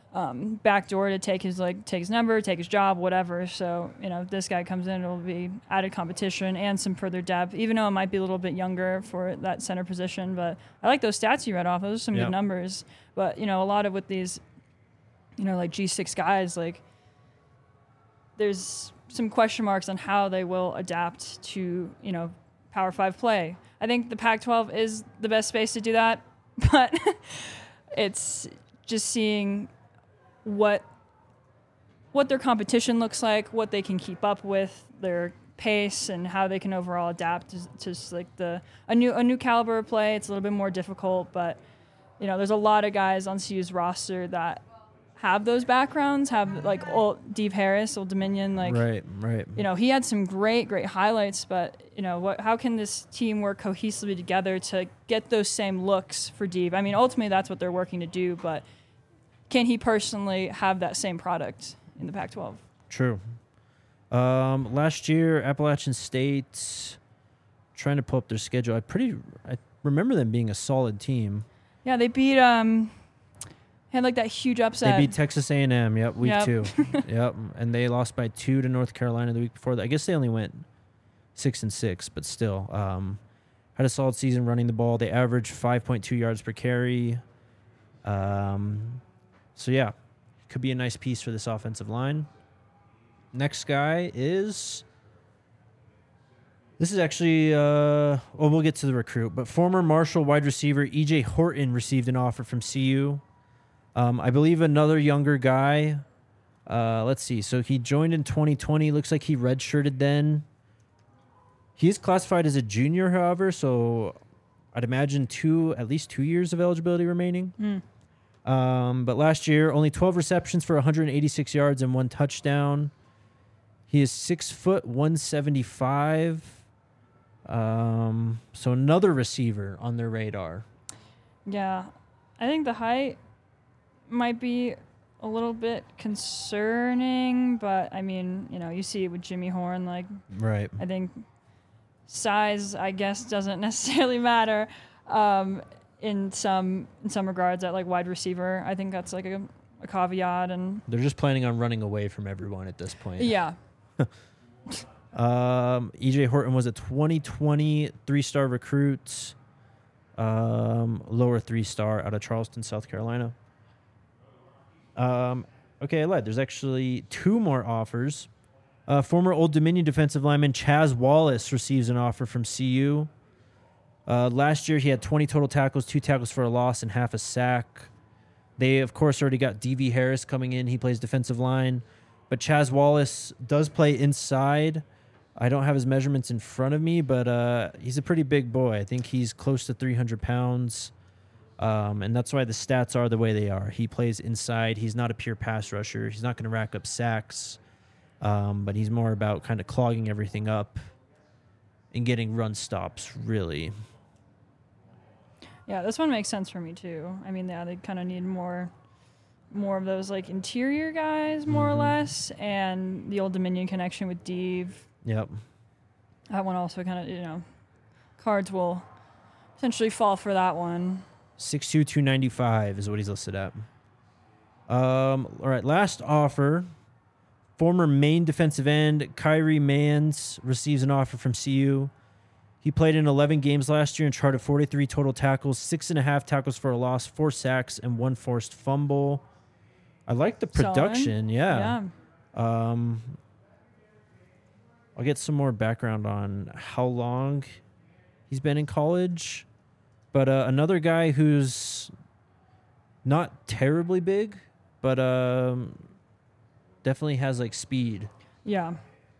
S2: backdoor to take his number, take his job, whatever. So, if this guy comes in, it'll be added competition and some further depth, even though it might be a little bit younger for that center position. But I like those stats you read off. Those are some good numbers. But, a lot of with these, like G6 guys, like there's some question marks on how they will adapt to, Power 5 play. I think the Pac-12 is the best space to do that, but it's just seeing what their competition looks like, what they can keep up with, their pace, and how they can overall adapt to just like a new caliber of play. It's a little bit more difficult, but there's a lot of guys on CU's roster that have those backgrounds, have like Dave Harris, Old Dominion, like
S1: right.
S2: He had some great highlights, but how can this team work cohesively together to get those same looks for Dave? I mean, ultimately that's what they're working to do, but can he personally have that same product in the Pac-12?
S1: True. Last year, Appalachian State, trying to pull up their schedule. I remember them being a solid team.
S2: Yeah, they beat had like that huge upset.
S1: They beat Texas A&M. Yep, week 2. Yep, and they lost by 2 to North Carolina the week before that. I guess they only went 6-6, but still had a solid season running the ball. They averaged 5.2 yards per carry. So yeah, could be a nice piece for this offensive line. Next guy is. This is actually, we'll get to the recruit, but former Marshall wide receiver E.J. Horton received an offer from CU. I believe another younger guy. Let's see. So he joined in 2020. Looks like he redshirted then. He is classified as a junior, however, so I'd imagine at least 2 years of eligibility remaining. But last year, only 12 receptions for 186 yards and 1 touchdown. He is 6 foot 175. So another receiver on their radar.
S2: Yeah, I think the height might be a little bit concerning, but I mean, you see it with Jimmy Horn. Like,
S1: right.
S2: I think size, I guess, doesn't necessarily matter in some regards at like wide receiver. I think that's like a caveat, and
S1: they're just planning on running away from everyone at this point.
S2: Yeah.
S1: E.J. Horton was a 2020 3-star recruit, lower 3-star out of Charleston, South Carolina. Okay, I lied. There's actually 2 more offers. Former Old Dominion defensive lineman Chaz Wallace receives an offer from CU. Last year, he had 20 total tackles, 2 tackles for a loss, and half a sack. They, of course, already got D.V. Harris coming in. He plays defensive line. But Chaz Wallace does play inside. I don't have his measurements in front of me, but he's a pretty big boy. I think he's close to 300 pounds. And that's why the stats are the way they are. He plays inside. He's not a pure pass rusher. He's not going to rack up sacks. But he's more about kind of clogging everything up and getting run stops, really.
S2: Yeah, this one makes sense for me, too. I mean, yeah, they kind of need more of those, like, interior guys, more or less, and the Old Dominion connection with Dave.
S1: Yep.
S2: That one also kind of, cards will essentially fall for that one.
S1: 6'2", 295 is what he's listed at. All right, last offer. Former Maine defensive end Kyrie Mans receives an offer from CU. He played in 11 games last year and charted 43 total tackles, 6.5 tackles for a loss, 4 sacks, and 1 forced fumble. I like the production. Yeah. I'll get some more background on how long he's been in college. But another guy who's not terribly big, but definitely has like speed.
S2: Yeah.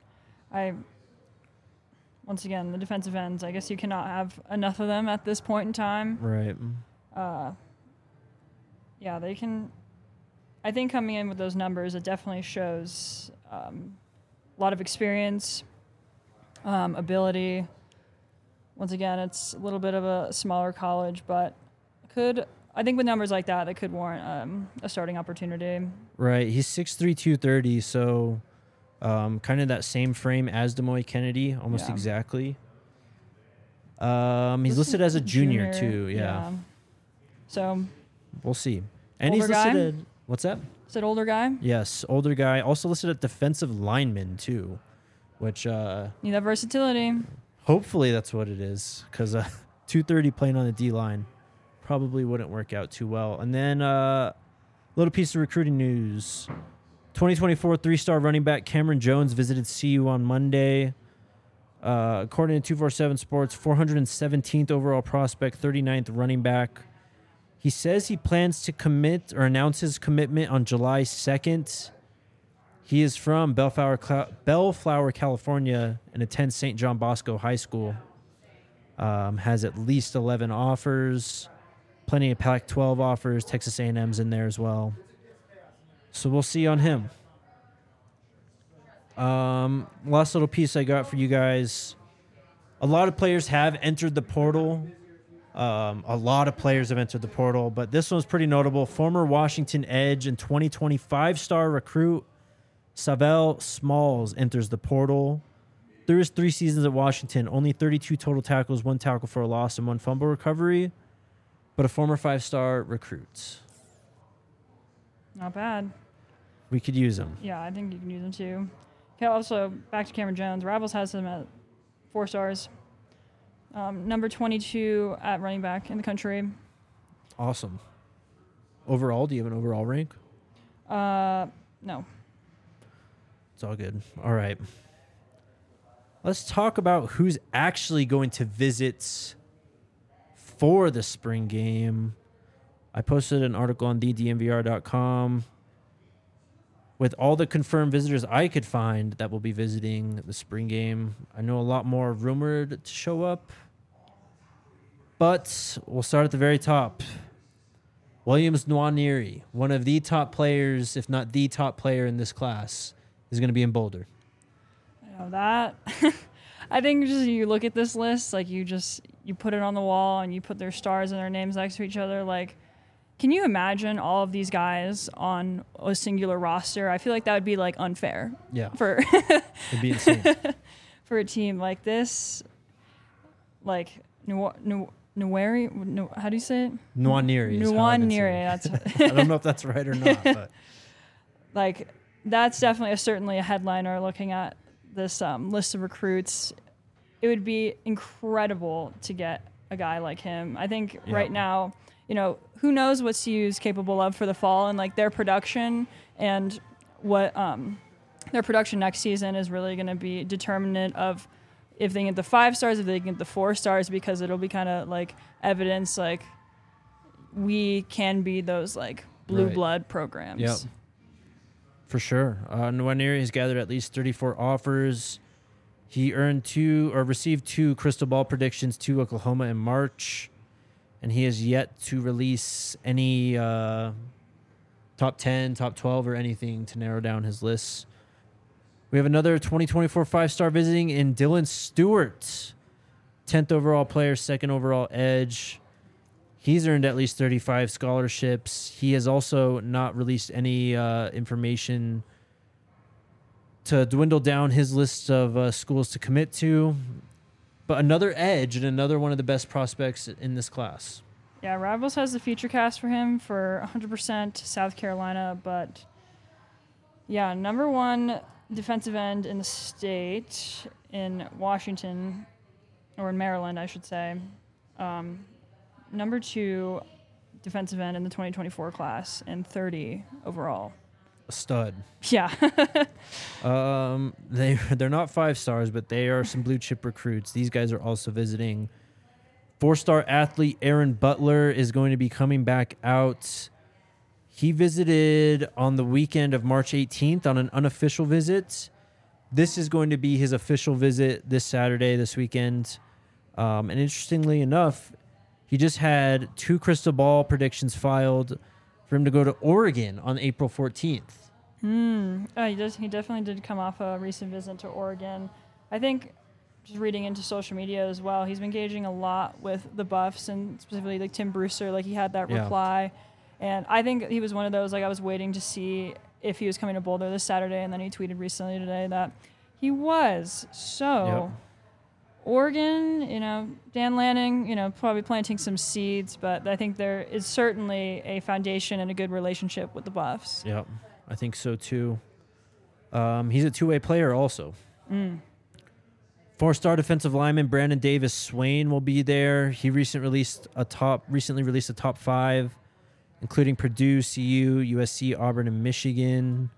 S2: Once again, the defensive ends, I guess you cannot have enough of them at this point in time.
S1: Right.
S2: Yeah, they can. I think coming in with those numbers, it definitely shows a lot of experience, ability. Once again, it's a little bit of a smaller college, but I think with numbers like that could warrant a starting opportunity. Right.
S1: He's 6'3", 230, so kind of that same frame as Demoy Kennedy, almost exactly. He's listed as a junior too. Yeah.
S2: So
S1: we'll see. And he's listed at, what's that?
S2: Is it older guy?
S1: Yes, older guy. Also listed at defensive lineman too, which
S2: Need that versatility.
S1: hopefully that's what it is, because 230 playing on the D line probably wouldn't work out too well. And then little piece of recruiting news: 2024 3-star running back Cameron Jones visited CU on Monday. According to 247 Sports, 417th overall prospect, 39th running back. He says he plans to commit or announce his commitment on July 2nd. He is from Bellflower, California, and attends St. John Bosco High School. Has at least 11 offers, plenty of Pac-12 offers. Texas A&M's in there as well. So we'll see on him. Last little piece I got for you guys. A lot of players have entered the portal. But this one's pretty notable. Former Washington Edge and 2020 5-star recruit Savell Smalls enters the portal. Through his 3 seasons at Washington, only 32 total tackles, 1 tackle for a loss, and 1 fumble recovery, but a former 5-star recruit.
S2: Not bad.
S1: We could use him.
S2: Yeah, I think you can use him too. Okay, also, back to Cameron Jones. Rivals has him at 4 stars. Number 22 at running back in the country.
S1: Awesome. Overall, do you have an overall rank?
S2: No.
S1: It's all good. All right. Let's talk about who's actually going to visit for the spring game. I posted an article on thedmvr.com with all the confirmed visitors I could find that will be visiting the spring game. I know a lot more rumored to show up, but we'll start at the very top. Williams Nwaneri, one of the top players, if not the top player in this class, is going to be in Boulder.
S2: I know that. I think just you look at this list, like you put it on the wall and you put their stars and their names next to each other. Like, can you imagine all of these guys on a singular roster? I feel like that would be like unfair.
S1: Yeah.
S2: For
S1: It'd be insane.
S2: for a team like this, like Nwaneri, how do you say it?
S1: Nwaneri.
S2: Nwaneri.
S1: I don't know if that's right or not, but
S2: Like, that's definitely certainly a headliner looking at this list of recruits. It would be incredible to get a guy like him. I think right now, who knows what CU is capable of for the fall, and like their production and what their production next season is really going to be determinant of if they get the 5 stars, if they get the 4 stars, because it'll be kind of like evidence like we can be those like blue blood programs.
S1: Yep. For sure. Nwaneri has gathered at least 34 offers. He received 2 crystal ball predictions to Oklahoma in March, and he has yet to release any top 10, top 12, or anything to narrow down his list. We have another 2024 5-star visiting in Dylan Stewart, 10th overall player, 2nd overall edge. He's earned at least 35 scholarships. He has also not released any information to dwindle down his list of schools to commit to. But another edge and another one of the best prospects in this class.
S2: Yeah, Rivals has the feature cast for him for 100% South Carolina. But, yeah, number 1 defensive end in the state in Washington, or in Maryland, I should say. Number 2 defensive end in the 2024 class, and 30 overall.
S1: A stud.
S2: Yeah.
S1: They're not 5 stars, but they are some blue chip recruits. These guys are also visiting. 4-star athlete Aaron Butler is going to be coming back out. He visited on the weekend of March 18th on an unofficial visit. This is going to be his official visit this Saturday, this weekend. And interestingly enough, he just had 2 crystal ball predictions filed for him to go to Oregon on April 14th.
S2: He definitely did come off a recent visit to Oregon. I think just reading into social media as well, he's been engaging a lot with the Buffs and specifically like Tim Brewster. Like he had that reply. And I think he was one of those, like I was waiting to see if he was coming to Boulder this Saturday. And then he tweeted recently today that he was. So Oregon, Dan Lanning, probably planting some seeds, but I think there is certainly a foundation and a good relationship with the Buffs.
S1: Yep, I think so too. He's a two-way player also. Four-star defensive lineman Brandon Davis Swain will be there. He recently released a top 5, including Purdue, CU, USC, Auburn, and Michigan.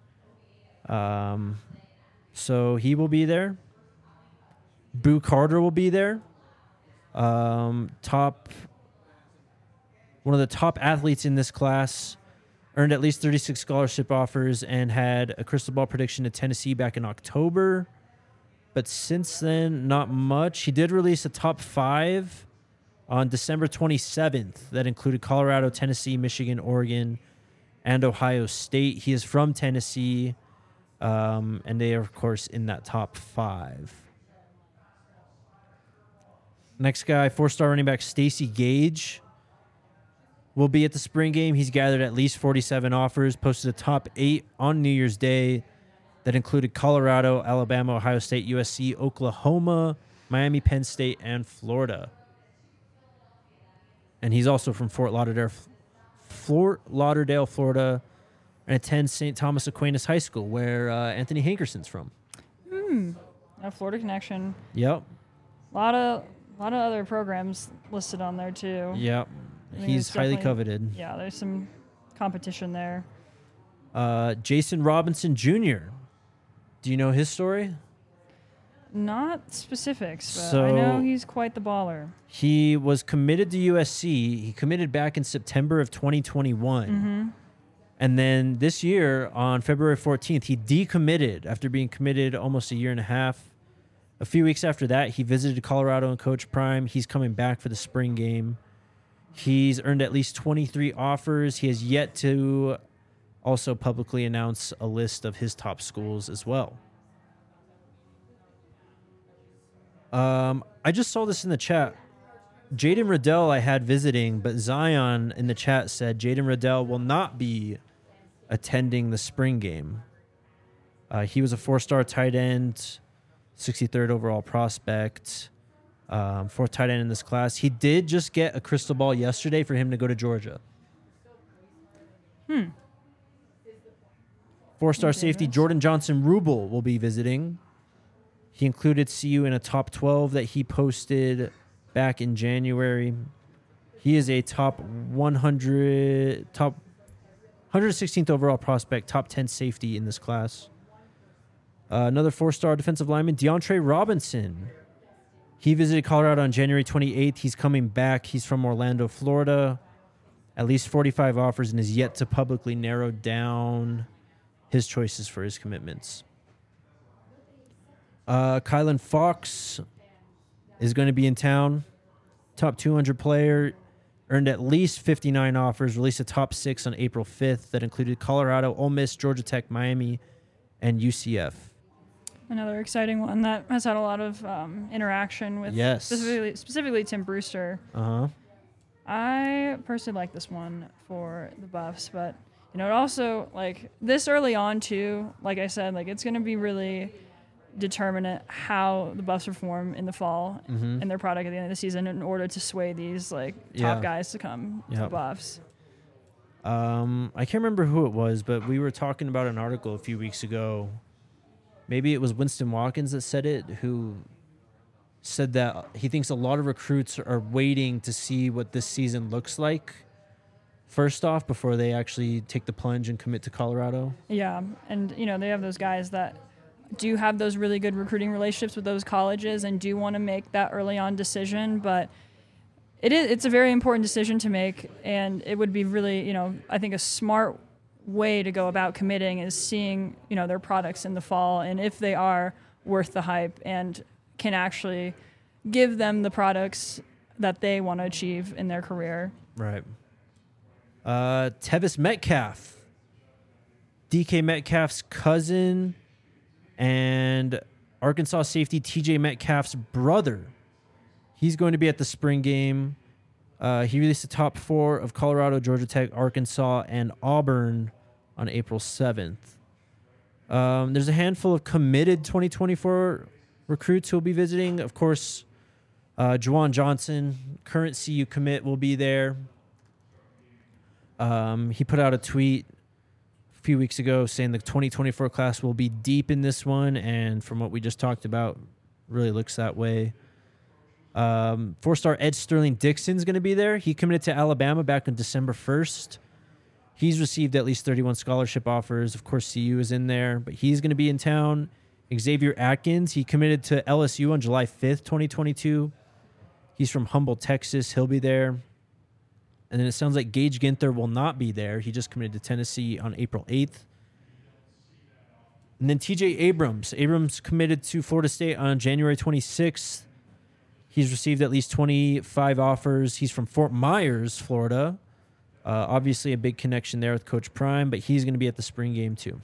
S1: So he will be there. Boo Carter will be there. One of the top athletes in this class, earned at least 36 scholarship offers and had a crystal ball prediction to Tennessee back in October. But since then, not much. He did release a top 5 on December 27th that included Colorado, Tennessee, Michigan, Oregon, and Ohio State. He is from Tennessee, and they are, of course, in that top 5. Next guy, 4-star running back Stacey Gage will be at the spring game. He's gathered at least 47 offers, posted a top 8 on New Year's Day that included Colorado, Alabama, Ohio State, USC, Oklahoma, Miami, Penn State, and Florida. And he's also from Fort Lauderdale, Florida, and attends St. Thomas Aquinas High School, where Anthony Hankerson's from.
S2: A Florida connection.
S1: Yep.
S2: A lot of other programs listed on there too.
S1: Yep.
S2: I mean,
S1: He's
S2: it's
S1: highly
S2: definitely-
S1: coveted.
S2: Yeah, there's some competition there.
S1: Jason Robinson Jr. Do you know his story?
S2: Not specifics, but
S1: So-
S2: I know he's quite the baller.
S1: He was committed to USC. He committed back in September of 2021. And then this year, on February 14th, he decommitted after being committed almost a year and a half. A few weeks after that, he visited Colorado and Coach Prime. He's coming back for the spring game. He's earned at least 23 offers. He has yet to also publicly announce a list of his top schools as well. I just saw this in the chat. Jaden Riddell I had visiting, but Zion in the chat said Jaden Riddell will not be attending the spring game. He was a 4-star tight end, 63rd overall prospect, 4th tight end in this class. He did just get a crystal ball yesterday for him to go to Georgia. 4-star safety Jordan Johnson Rubel will be visiting. He included CU in a top 12 that he posted back in January. He is a top 116th overall prospect, top 10 safety in this class. Another 4-star defensive lineman, DeAndre Robinson. He visited Colorado on January 28th. He's coming back. He's from Orlando, Florida. At least 45 offers and is yet to publicly narrow down his choices for his commitments. Kylan Fox is going to be in town. Top 200 player. Earned at least 59 offers. Released a top 6 on April 5th that included Colorado, Ole Miss, Georgia Tech, Miami, and UCF.
S2: Another exciting one that has had a lot of interaction with specifically Tim Brewster. I personally like this one for the Buffs, but it also, like, this early on too, like I said, like, it's going to be really determinant how the Buffs perform in the fall and their product at the end of the season in order to sway these top guys to come to the Buffs.
S1: I can't remember who it was, but we were talking about an article a few weeks ago. Maybe it was Winston Watkins that said it, who said that he thinks a lot of recruits are waiting to see what this season looks like first off before they actually take the plunge and commit to Colorado.
S2: Yeah, and they have those guys that do have those really good recruiting relationships with those colleges and do want to make that early on decision, but it's a very important decision to make, and it would be really, I think a smart way to go about committing is seeing, their products in the fall and if they are worth the hype and can actually give them the products that they want to achieve in their career.
S1: Right. Tevis Metcalf, DK Metcalf's cousin and Arkansas safety TJ Metcalf's brother. He's going to be at the spring game. He released the top 4 of Colorado, Georgia Tech, Arkansas, and Auburn on April 7th. There's a handful of committed 2024 recruits who will be visiting. Of course, Juwan Johnson, current CU commit, will be there. He put out a tweet a few weeks ago saying the 2024 class will be deep in this one, and from what we just talked about, really looks that way. 4-star Ed Sterling Dixon's going to be there. He committed to Alabama back on December 1st. He's received at least 31 scholarship offers. Of course, CU is in there, but he's going to be in town. Xavier Atkins, he committed to LSU on July 5th, 2022. He's from Humboldt, Texas. He'll be there. And then it sounds like Gage Ginther will not be there. He just committed to Tennessee on April 8th. And then TJ Abrams. Abrams committed to Florida State on January 26th. He's received at least 25 offers. He's from Fort Myers, Florida. Obviously a big connection there with Coach Prime, but he's going to be at the spring game too.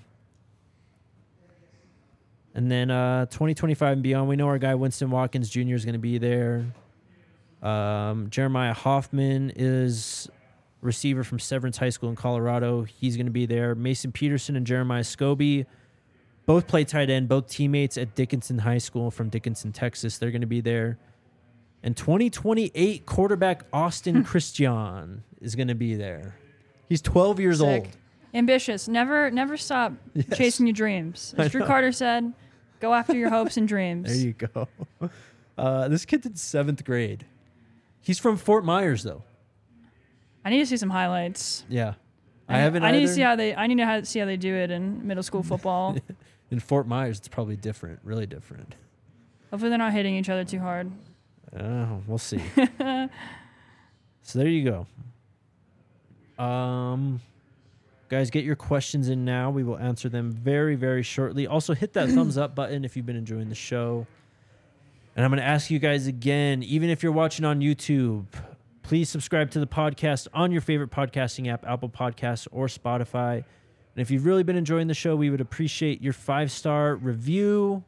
S1: And then 2025 and beyond, we know our guy Winston Watkins Jr. is going to be there. Jeremiah Hoffman is receiver from Severance High School in Colorado. He's going to be there. Mason Peterson and Jeremiah Scobie both play tight end, both teammates at Dickinson High School from Dickinson, Texas. They're going to be there. And 2028 quarterback Austin Christian is going to be there. He's 12 years
S2: Sick.
S1: old.
S2: Ambitious. Never stop chasing your dreams. As Drew Carter said, go after your hopes and dreams.
S1: There you go. This kid's in 7th grade. He's from Fort Myers, though.
S2: I need to see some highlights.
S1: Yeah. I haven't
S2: I need
S1: either.
S2: to see how they do it in middle school football.
S1: In Fort Myers, it's probably different, really different.
S2: Hopefully they're not hitting each other too hard.
S1: We'll see. So there you go. Guys, get your questions in now. We will answer them very, very shortly. Also, hit that thumbs up button if you've been enjoying the show. And I'm going to ask you guys again, even if you're watching on YouTube, please subscribe to the podcast on your favorite podcasting app, Apple Podcasts or Spotify. And if you've really been enjoying the show, we would appreciate your 5-star review.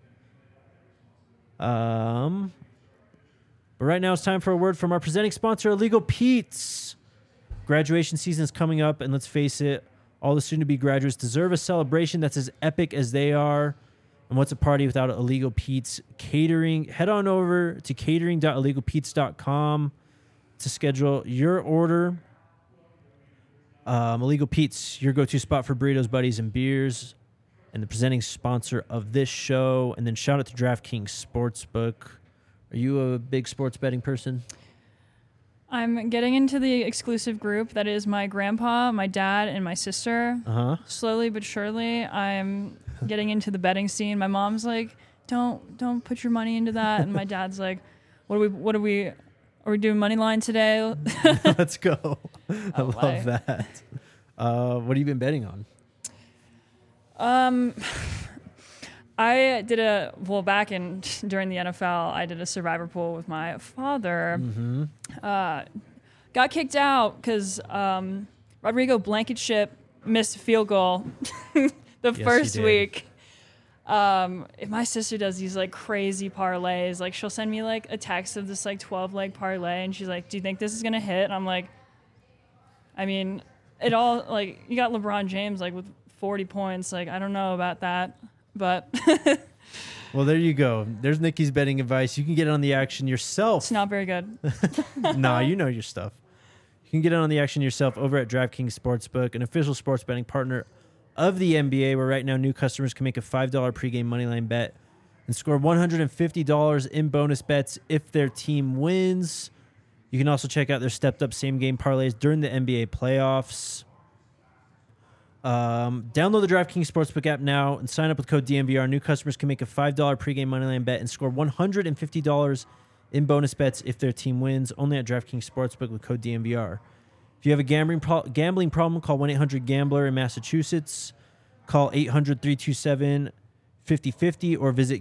S1: But right now it's time for a word from our presenting sponsor, Illegal Pete's. Graduation season is coming up, and let's face it, all the soon-to-be graduates deserve a celebration that's as epic as they are. And what's a party without Illegal Pete's catering? Head on over to catering.illegalpete's.com to schedule your order. Illegal Pete's, your go-to spot for burritos, buddies, and beers, and the presenting sponsor of this show. And then shout out to DraftKings Sportsbook. Are you a big sports betting person?
S2: I'm getting into the exclusive group that is my grandpa, my dad, and my sister. Slowly but surely, I'm getting into the betting scene. My mom's like, "Don't put your money into that," and my dad's like, "What are we doing money line today?"
S1: Let's go. I love that. What have you been betting on?
S2: I did during the NFL, I did a survivor pool with my father. Got kicked out because Rodrigo Blankenship missed a field goal the first week. If my sister does these like crazy parlays, like she'll send me like a text of this like 12-leg parlay, and she's like, "Do you think this is gonna hit?" And I'm like, I mean, it all like you got LeBron James like with 40 points. Like I don't know about that. But
S1: well, there you go. There's Nikki's betting advice. You can get on the action yourself.
S2: It's not very good.
S1: Nah, you know your stuff. You can get on the action yourself over at DraftKings Sportsbook, an official sports betting partner of the NBA, where right now new customers can make a $5 pregame moneyline bet and score $150 in bonus bets if their team wins. You can also check out their stepped-up same-game parlays during the NBA playoffs. Download the DraftKings Sportsbook app now and sign up with code DNVR. New customers can make a $5 pregame moneyline bet and score $150 in bonus bets if their team wins. Only at DraftKings Sportsbook with code DNVR. If you have a gambling problem, call 1-800-GAMBLER in Massachusetts. Call 800-327-5050 or visit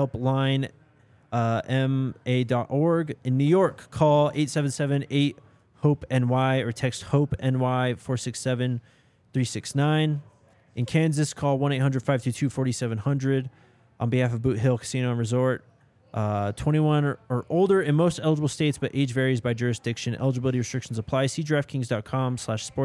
S1: gamblinghelpline.ma.org. In New York, call 877-8-HOPE-NY or text HOPE-NY 467-369. In Kansas, call 1-800-522-4700 on behalf of Boot Hill Casino and Resort. 21 or older in most eligible states, but age varies by jurisdiction. Eligibility restrictions apply. See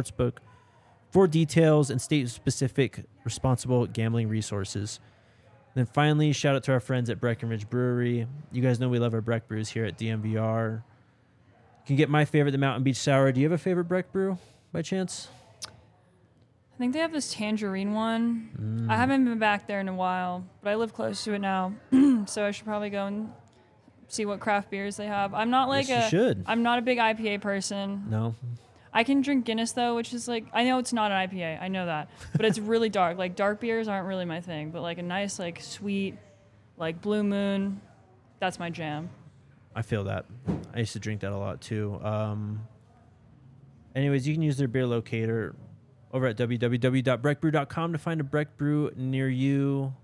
S1: DraftKings.com/sportsbook for details and state-specific responsible gambling resources. Then finally, shout out to our friends at Breckenridge Brewery. You guys know we love our Breck brews here at DMVR. You can get my favorite, the Mountain Beach Sour. Do you have a favorite Breck brew by chance?
S2: I think they have this tangerine one. I haven't been back there in a while, but I live close to it now, so I should probably go and see what craft beers they have. I'm not like
S1: Yes, you should.
S2: I'm not a big IPA person.
S1: No.
S2: I can drink Guinness though, which is like, I know it's not an IPA, I know that, but it's really dark. Like dark beers aren't really my thing, but like a nice like sweet, like Blue Moon, that's my jam.
S1: I feel that. I used to drink that a lot too. Anyways, you can use their beer locator over at www.breckbrew.com to find a Breck brew near you.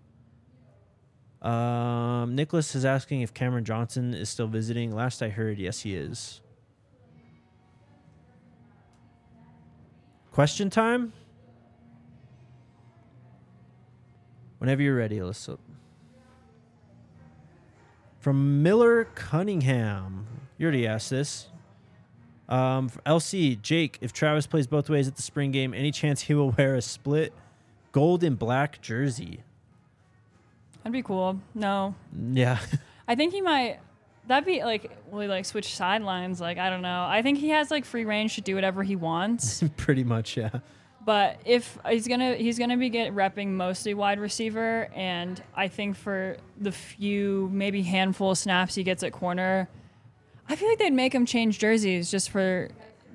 S1: Nicholas is asking if Cameron Johnson is still visiting. Last I heard, yes, he is. Question time? Whenever you're ready, Alyssa. From Miller Cunningham. You already asked this. LC, Jake, if Travis plays both ways at the spring game, any chance he will wear a split gold and black jersey?
S2: That'd be cool. No.
S1: Yeah.
S2: I think he might. That'd be like, will he like switch sidelines? Like, I don't know. I think he has like free range to do whatever he wants.
S1: Pretty much, yeah.
S2: But if he's gonna be repping mostly wide receiver, and I think for the few maybe handful of snaps he gets at corner, I feel like they'd make him change jerseys just for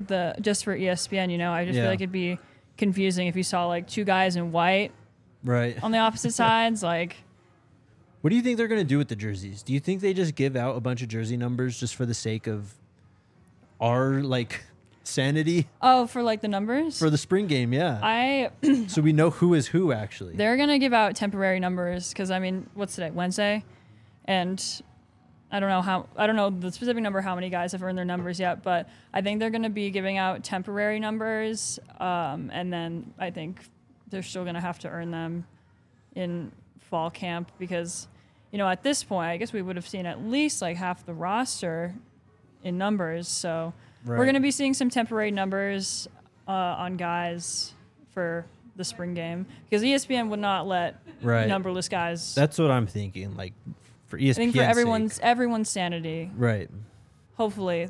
S2: ESPN. You know, I just feel like it'd be confusing if you saw like two guys in white,
S1: right,
S2: on the opposite sides, like.
S1: What do you think they're going to do with the jerseys? Do you think they just give out a bunch of jersey numbers just for the sake of our, like, sanity?
S2: Oh, for, like, the numbers?
S1: For the spring game, yeah. So we know who is who, actually.
S2: They're going to give out temporary numbers because, I mean, what's today? Wednesday? And I don't know the specific number how many guys have earned their numbers yet, but I think they're going to be giving out temporary numbers, and then I think they're still going to have to earn them in fall camp because, you know, at this point, I guess we would have seen at least like half the roster in numbers. So we're going to be seeing some temporary numbers on guys for the spring game because ESPN would not let numberless guys.
S1: That's what I'm thinking. Like for ESPN, I think
S2: for everyone's sanity.
S1: Right.
S2: Hopefully.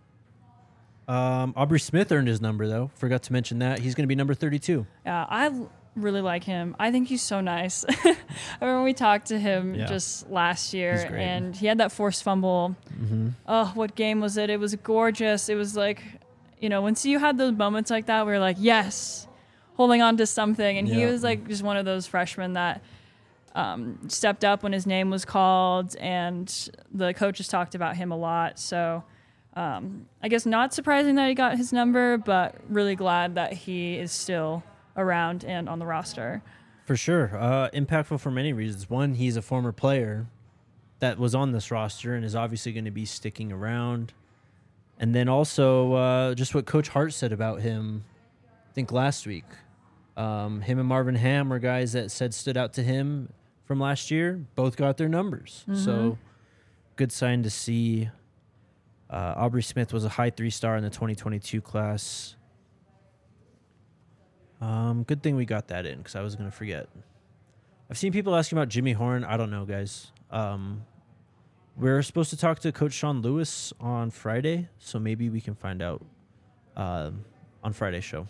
S1: Aubrey Smith earned his number though. Forgot to mention that he's going to be number 32.
S2: Yeah, I really like him. I think he's so nice. I remember we talked to him just last year, and he had that forced fumble. Mm-hmm. Oh, what game was it? It was gorgeous. It was like, you know, once you had those moments like that, we were like, yes, holding on to something. And he was like just one of those freshmen that stepped up when his name was called, and the coaches talked about him a lot. So I guess not surprising that he got his number, but really glad that he is still around and on the roster.
S1: For sure. Impactful for many reasons. One, he's a former player that was on this roster and is obviously going to be sticking around. And then also just what Coach Hart said about him, I think last week. Him and Marvin Ham were guys that stood out to him from last year. Both got their numbers. Mm-hmm. So good sign to see. Aubrey Smith was a high 3-star in the 2022 class. Good thing we got that in because I was going to forget. I've seen people asking about Jimmy Horn. I don't know, guys. We're supposed to talk to Coach Sean Lewis on Friday, so maybe we can find out on Friday's show.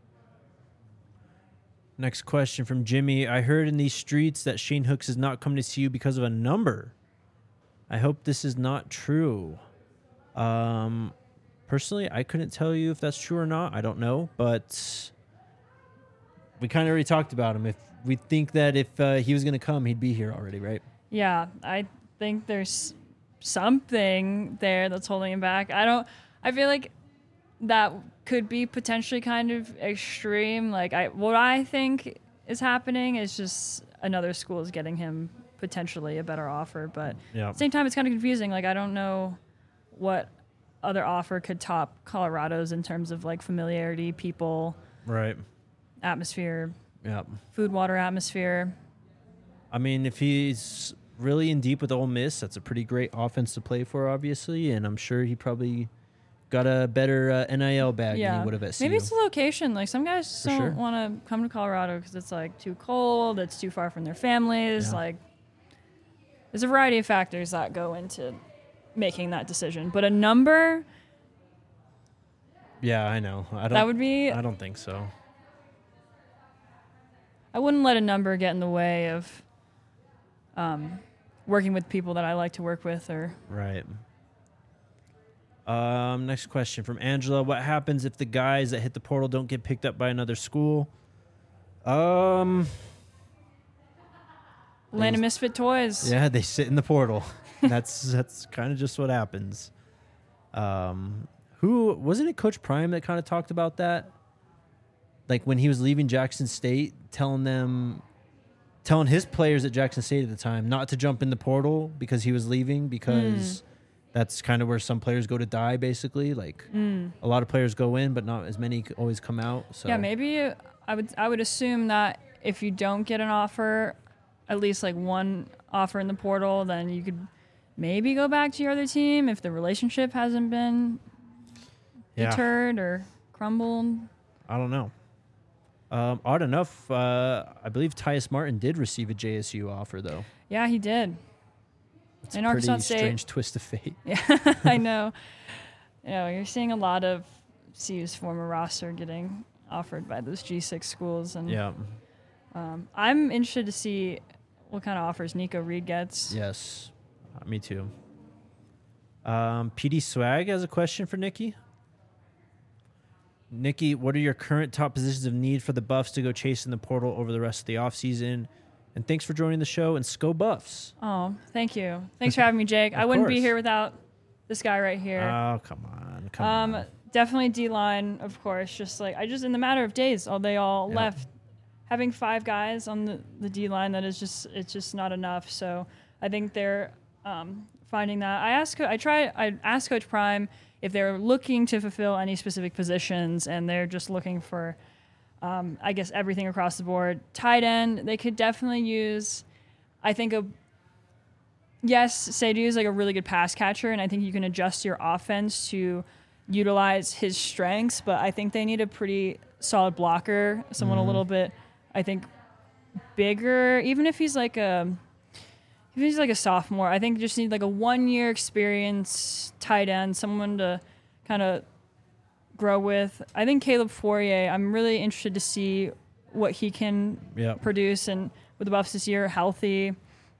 S1: Next question from Jimmy. I heard in these streets that Shane Hooks is not coming to see you because of a number. I hope this is not true. Personally, I couldn't tell you if that's true or not. I don't know, but we kind of already talked about him. If we think that if he was going to come, he'd be here already, right?
S2: Yeah, I think there's something there that's holding him back. I feel like that could be potentially kind of extreme. Like what I think is happening is just another school is getting him potentially a better offer. But at the same time, it's kind of confusing. Like I don't know what other offer could top Colorado's in terms of like familiarity, people,
S1: right,
S2: atmosphere, food, water, atmosphere.
S1: I mean, if he's really in deep with Ole Miss, that's a pretty great offense to play for, obviously, and I'm sure he probably got a better NIL bag than he would have at CU.
S2: Maybe it's the location. Like some guys don't want to come to Colorado because it's like too cold, it's too far from their families. Like There's a variety of factors that go into making that decision, but a number
S1: Yeah, I know. I don't.
S2: that would be.
S1: I don't think so.
S2: I wouldn't let a number get in the way of working with people that I like to work with. Or
S1: Right. Next question from Angela. What happens if the guys that hit the portal don't get picked up by another school?
S2: Land of Misfit Toys.
S1: Yeah, they sit in the portal. That's kind of just what happens. Who wasn't it? Coach Prime that kind of talked about that, like when he was leaving Jackson State, telling his players at Jackson State at the time not to jump in the portal because he was leaving, because that's kind of where some players go to die, basically. Like a lot of players go in, but not as many always come out. So
S2: Yeah, maybe I would assume that if you don't get an offer, at least like one offer in the portal, then you could maybe go back to your other team if the relationship hasn't been deterred or crumbled.
S1: I don't know. Odd enough, I believe Tyus Martin did receive a JSU offer, though.
S2: Yeah, he did.
S1: It's
S2: In
S1: a
S2: Arkansas
S1: pretty
S2: State.
S1: strange twist of fate.
S2: Yeah, I know. You're seeing a lot of CU's former roster getting offered by those G6 schools, and
S1: Yeah.
S2: I'm interested to see what kind of offers Nico Reed gets.
S1: Yes. Me too. PD Swag has a question for Nikki. Nikki, what are your current top positions of need for the Buffs to go chasing the portal over the rest of the offseason? And thanks for joining the show, and Sco Buffs.
S2: Oh, thank you. Thanks for having me, Jake. I wouldn't be
S1: course.
S2: here without this guy right here.
S1: Oh, come on.
S2: Definitely D-line, of course. Just like in the matter of days, they all
S1: Yep.
S2: left. Having 5 guys on the D-line, it's just not enough. So I think they're finding that. I asked Coach Prime if they're looking to fulfill any specific positions, and they're just looking for, I guess, everything across the board. Tight end, they could definitely use, I think, Seydu is like a really good pass catcher, and I think you can adjust your offense to utilize his strengths, but I think they need a pretty solid blocker, someone a little bit, I think, bigger, even if he's like a sophomore. I think just need like a 1-year experience tight end, someone to kind of grow with. I think Caleb Fourier, I'm really interested to see what he can produce and with the Buffs this year, healthy.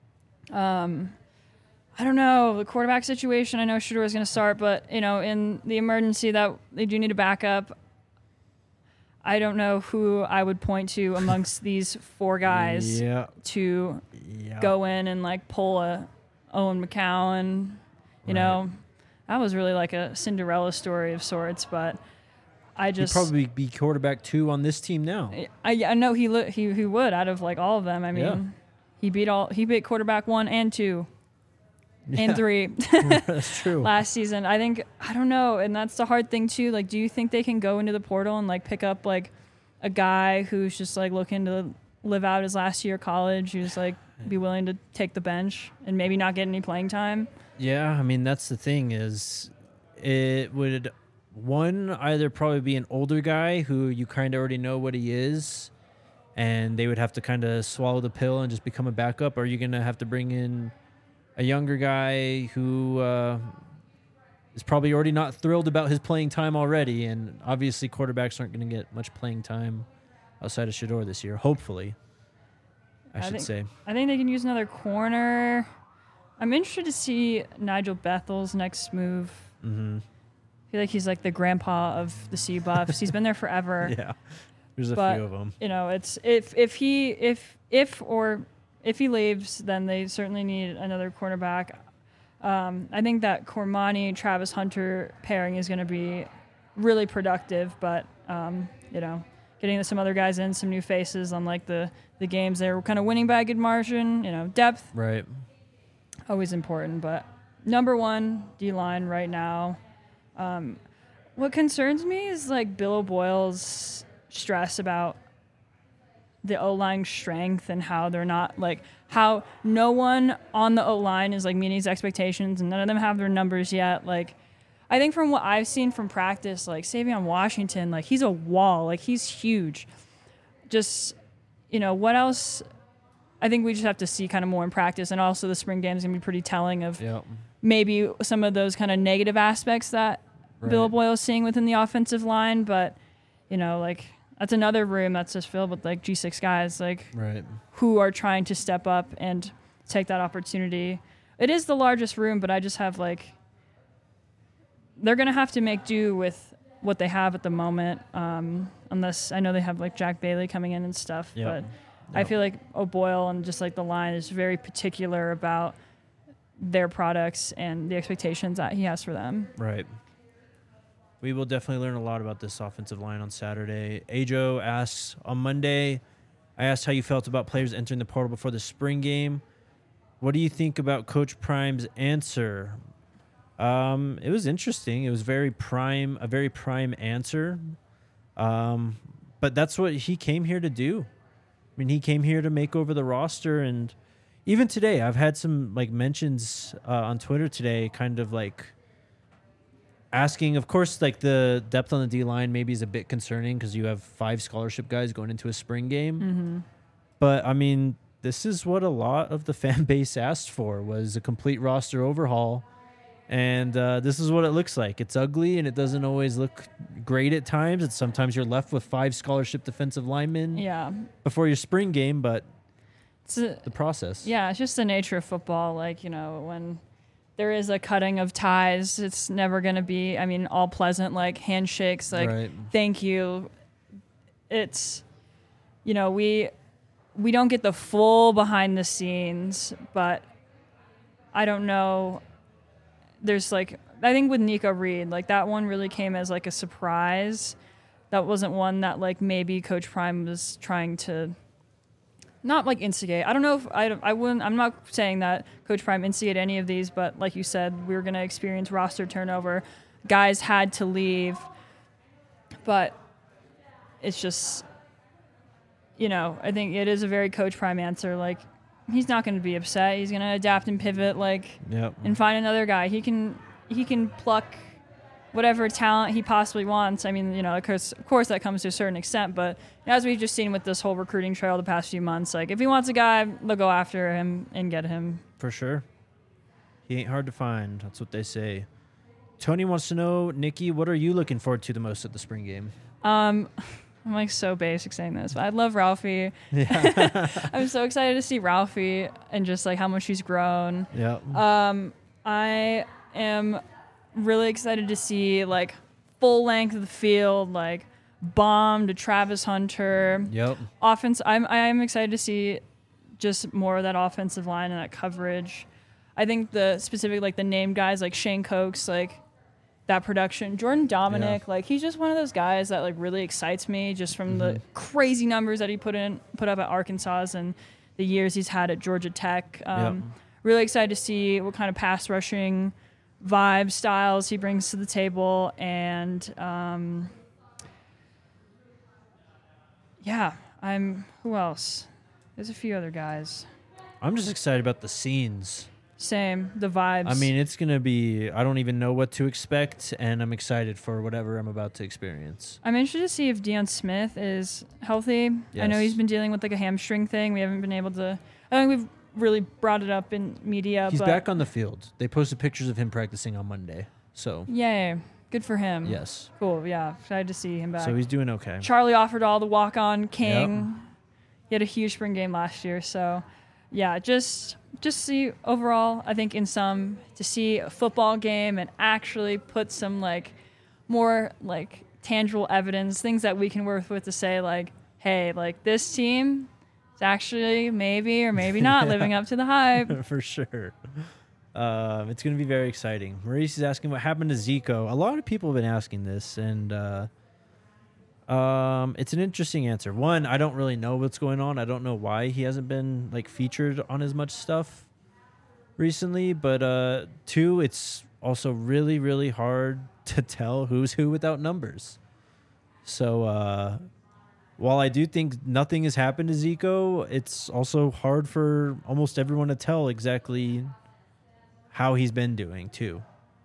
S2: I don't know, the quarterback situation, I know Shedeur is going to start, but, in the emergency that they do need a backup, I don't know who I would point to amongst these 4 guys to go in and, like, pull a Owen McCowan. You know, that was really like a Cinderella story of sorts, but I just...
S1: He'd probably be quarterback 2 on this team now.
S2: I know he would out of, like, all of them. I mean, he beat quarterback 1 and 2. And 3
S1: That's true.
S2: last season. I don't know, and that's the hard thing too. Like, do you think they can go into the portal and like pick up like a guy who's just like looking to live out his last year of college, who's like be willing to take the bench and maybe not get any playing time?
S1: Yeah, I mean, that's the thing is it would either probably be an older guy who you kind of already know what he is, and they would have to kind of swallow the pill and just become a backup, or you're going to have to bring in a younger guy who is probably already not thrilled about his playing time already, and obviously quarterbacks aren't going to get much playing time outside of Shedeur this year, hopefully, I should say.
S2: I think they can use another corner. I'm interested to see Nigel Bethel's next move.
S1: Mm-hmm.
S2: I feel like he's like the grandpa of the CU Buffs. He's been there forever.
S1: Yeah, there's a
S2: But,
S1: few of them.
S2: It's if he leaves, then they certainly need another cornerback. I think that Cormani Travis Hunter pairing is going to be really productive, but getting some other guys in, some new faces on like the games they were kind of winning by a good margin. Depth
S1: Right.
S2: always important, but number 1 D-line right now. What concerns me is like Bill O'Boyle's stress about the O-line strength and how they're not like how no one on the O-line is like meeting his expectations and none of them have their numbers yet. Like, I think from what I've seen from practice, like Savion Washington, like he's a wall, like he's huge. Just, what else I think we just have to see kind of more in practice, and also the spring game is going to be pretty telling of
S1: Yep.
S2: maybe some of those kind of negative aspects that Bill
S1: Right.
S2: Boyle is seeing within the offensive line. But, like that's another room that's just filled with like G6 guys, like
S1: Right.
S2: who are trying to step up and take that opportunity. It is the largest room, but I just have like, they're going to have to make do with what they have at the moment. Unless I know they have like Jack Bailey coming in and stuff,
S1: Yep.
S2: but I
S1: Yep.
S2: feel like O'Boyle and just like the line is very particular about their products and the expectations that he has for them.
S1: Right. We will definitely learn a lot about this offensive line on Saturday. Ajo asks, on Monday, I asked how you felt about players entering the portal before the spring game. What do you think about Coach Prime's answer? It was interesting. It was a very prime answer. But that's what he came here to do. I mean, he came here to make over the roster, and even today, I've had some like mentions on Twitter today, kind of like asking. Of course, like the depth on the D line maybe is a bit concerning because you have 5 scholarship guys going into a spring game.
S2: Mm-hmm.
S1: But I mean, this is what a lot of the fan base asked for, was a complete roster overhaul. And this is what it looks like. It's ugly, and it doesn't always look great at times. And sometimes you're left with 5 scholarship defensive linemen
S2: Yeah.
S1: before your spring game, but
S2: It's a,
S1: the process.
S2: yeah, it's just the nature of football. Like, when there is a cutting of ties, it's never going to be, all pleasant, like handshakes, like,
S1: Right.
S2: thank you. It's, we don't get the full behind the scenes, but I don't know. There's like, I think with Nico Reed, like that one really came as like a surprise. That wasn't one that like maybe Coach Prime was trying to not like instigate. I don't know if I wouldn't, I'm not saying that Coach Prime instigated any of these, but like you said, we were going to experience roster turnover. Guys had to leave, but it's just, I think it is a very Coach Prime answer. Like, he's not going to be upset. He's going to adapt and pivot, like,
S1: Yep.
S2: and find another guy. He can pluck whatever talent he possibly wants. Of course that comes to a certain extent, but as we've just seen with this whole recruiting trail the past few months, like if he wants a guy, they'll go after him and get him.
S1: For sure. He ain't hard to find. That's what they say. Tony wants to know, Nikki, what are you looking forward to the most at the spring game?
S2: I'm like so basic saying this, but I love Ralphie.
S1: Yeah.
S2: I'm so excited to see Ralphie and just like how much he's grown.
S1: Yep.
S2: I am really excited to see like full length of the field, like bomb to Travis Hunter.
S1: Yep.
S2: Offense. I am excited to see just more of that offensive line and that coverage. I think the specific like the named guys like Shane Cokes, like that production. Jordan Dominic, like he's just one of those guys that like really excites me just from the crazy numbers that he put up at Arkansas and the years he's had at Georgia Tech. Really excited to see what kind of pass rushing vibe styles he brings to the table. And who else? There's a few other guys.
S1: I'm just excited about the scenes.
S2: Same, the vibes.
S1: I mean, it's going to be, I don't even know what to expect, and I'm excited for whatever I'm about to experience.
S2: I'm interested to see if Deion Smith is healthy. I know
S1: Yes.
S2: he's been dealing with like a hamstring thing. We haven't been able to, I think we've really brought it up in media.
S1: He's
S2: but
S1: back on the field. They posted pictures of him practicing on Monday. So,
S2: Yay. Good for him.
S1: yes.
S2: Cool. Yeah. Excited to see him back.
S1: So he's doing okay.
S2: Charlie offered all the walk-on king. He had a huge spring game last year. So, yeah, just see overall, I think to see a football game and actually put some like more like tangible evidence, things that we can work with to say like, hey, like this team is actually maybe or maybe not living up to the hype.
S1: For sure. It's going to be very exciting. Maurice is asking what happened to Zico. A lot of people have been asking this, and it's an interesting answer. One, I don't really know what's going on. I don't know why he hasn't been like featured on as much stuff recently. But two, it's also really, really hard to tell who's who without numbers. So while I do think nothing has happened to Zico, it's also hard for almost everyone to tell exactly how he's been doing too.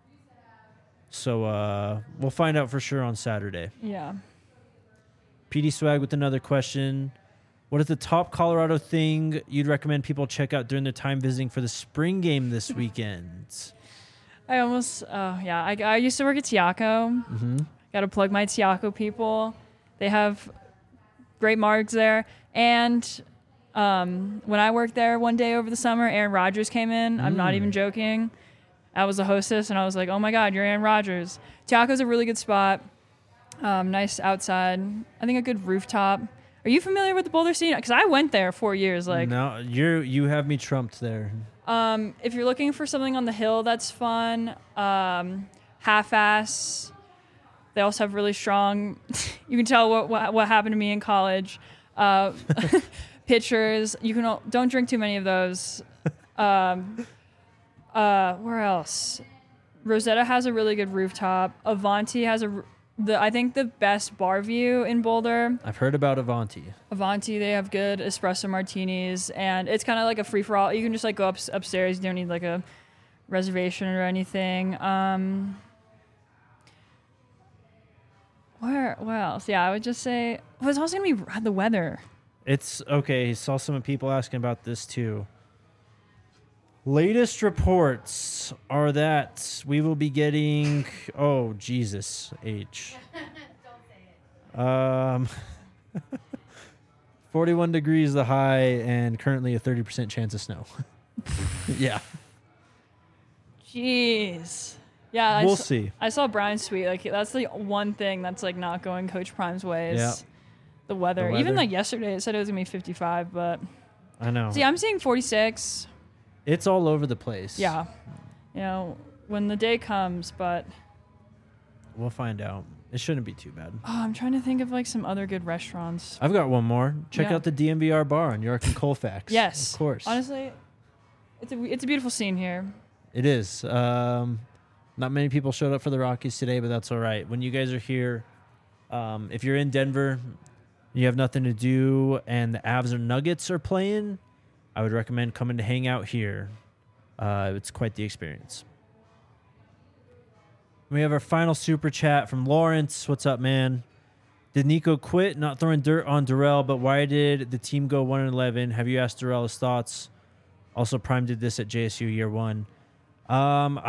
S1: So we'll find out for sure on Saturday.
S2: Yeah.
S1: PD Swag with another question. What is the top Colorado thing you'd recommend people check out during their time visiting for the spring game this weekend?
S2: I used to work at Tiaco.
S1: Mm-hmm.
S2: Got to plug my Tiaco people. They have great margs there. And when I worked there one day over the summer, Aaron Rodgers came in. I'm not even joking. I was the hostess, and I was like, oh, my God, you're Aaron Rodgers. Tiaco's a really good spot. Nice outside. I think a good rooftop. Are you familiar with the Boulder scene? Because I went there 4 years.
S1: No, you have me trumped there.
S2: If you're looking for something on the hill that's fun, Half-Ass. They also have really strong. You can tell what happened to me in college. Pitchers. Don't drink too many of those. Where else? Rosetta has a really good rooftop. Avanti has I think the best bar view in Boulder.
S1: I've heard about Avanti.
S2: They have good espresso martinis, and it's kind of like a free for all. You can just like go upstairs. You don't need like a reservation or anything. What else? Yeah, I would just say it's also gonna be the weather.
S1: It's okay. Saw some people asking about this too. Latest reports are that we will be getting 41 degrees the high and currently a 30% chance of snow. Yeah.
S2: Jeez. Yeah,
S1: we'll see.
S2: I saw Brian's tweet. Like that's the one thing that's like not going Coach Prime's way is
S1: Yeah.
S2: the weather. Even like yesterday, it said it was gonna be 55, but
S1: I know.
S2: See, I'm seeing 46.
S1: It's all over the place.
S2: Yeah. When the day comes, but
S1: we'll find out. It shouldn't be too bad.
S2: I'm trying to think of like some other good restaurants.
S1: I've got one more. Check out the DMVR bar on York and Colfax.
S2: Yes.
S1: Of course.
S2: Honestly, it's a beautiful scene here.
S1: It is. Not many people showed up for the Rockies today, but that's all right. When you guys are here, if you're in Denver, you have nothing to do, and the Avs or Nuggets are playing, I would recommend coming to hang out here. It's quite the experience. We have our final super chat from Lawrence. What's up, man? Did Nico quit? Not throwing dirt on Darrell, but why did the team go 1-11? Have you asked Darrell his thoughts? Also, Prime did this at JSU year one. I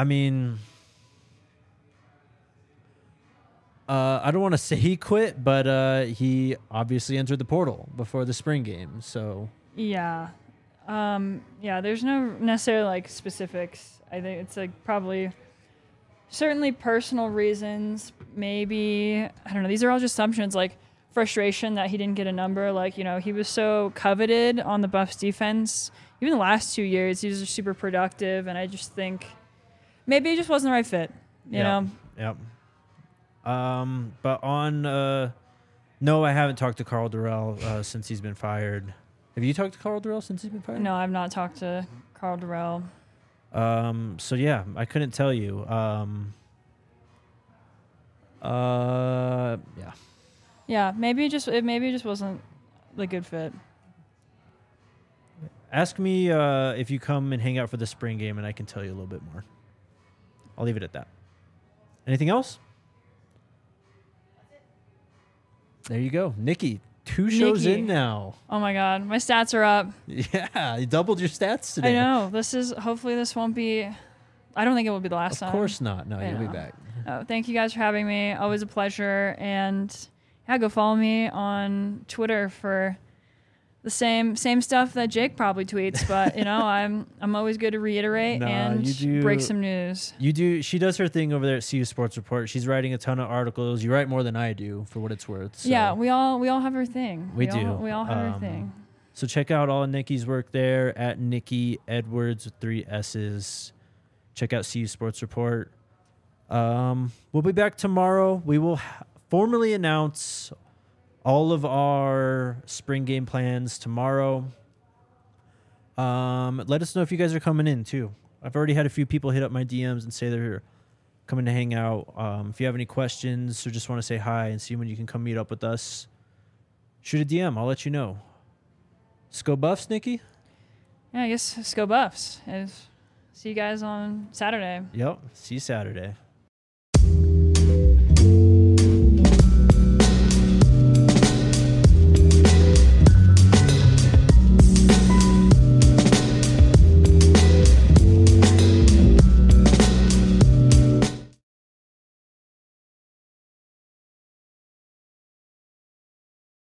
S1: don't want to say he quit, but he obviously entered the portal before the spring game. So
S2: yeah. There's no necessarily like specifics. I think it's like probably certainly personal reasons. Maybe, I don't know. These are all just assumptions, like frustration that he didn't get a number. Like, he was so coveted on the Buffs defense. Even the last 2 years, he was super productive. And I just think maybe it just wasn't the right fit, you know?
S1: Yep. But no, I haven't talked to Carl Darrell since he's been fired. Have you talked to Carl Darrell since he's been fired?
S2: No, I've not talked to Carl Darrell.
S1: So yeah, I couldn't tell you. Yeah.
S2: Yeah, maybe it just wasn't the good fit.
S1: Ask me if you come and hang out for the spring game, and I can tell you a little bit more. I'll leave it at that. Anything else? There you go, Nikki. 2 shows in now.
S2: Oh my God, my stats are up.
S1: Yeah, you doubled your stats today.
S2: I know. Hopefully this won't be. I don't think it will be the last time.
S1: Of course not. No, you'll be back.
S2: Thank you guys for having me. Always a pleasure. And yeah, go follow me on Twitter for the same stuff that Jake probably tweets. But I'm always good to reiterate and break some news.
S1: You do. She does her thing over there at CU Sports Report. She's writing a ton of articles. You write more than I do, for what it's worth. So.
S2: Yeah, we all have our thing.
S1: We do.
S2: We all have our thing.
S1: So check out all of Nikki's work there at Nikki Edwards with 3 S's. Check out CU Sports Report. We'll be back tomorrow. We will formally announce all of our spring game plans tomorrow. Let us know if you guys are coming in too. I've already had a few people hit up my DMs and say they're coming to hang out. If you have any questions or just want to say hi and see when you can come meet up with us, shoot a DM. I'll let you know. Go Buffs, Nikki?
S2: Yeah, I guess go Buffs. See you guys on Saturday.
S1: Yep. See you Saturday.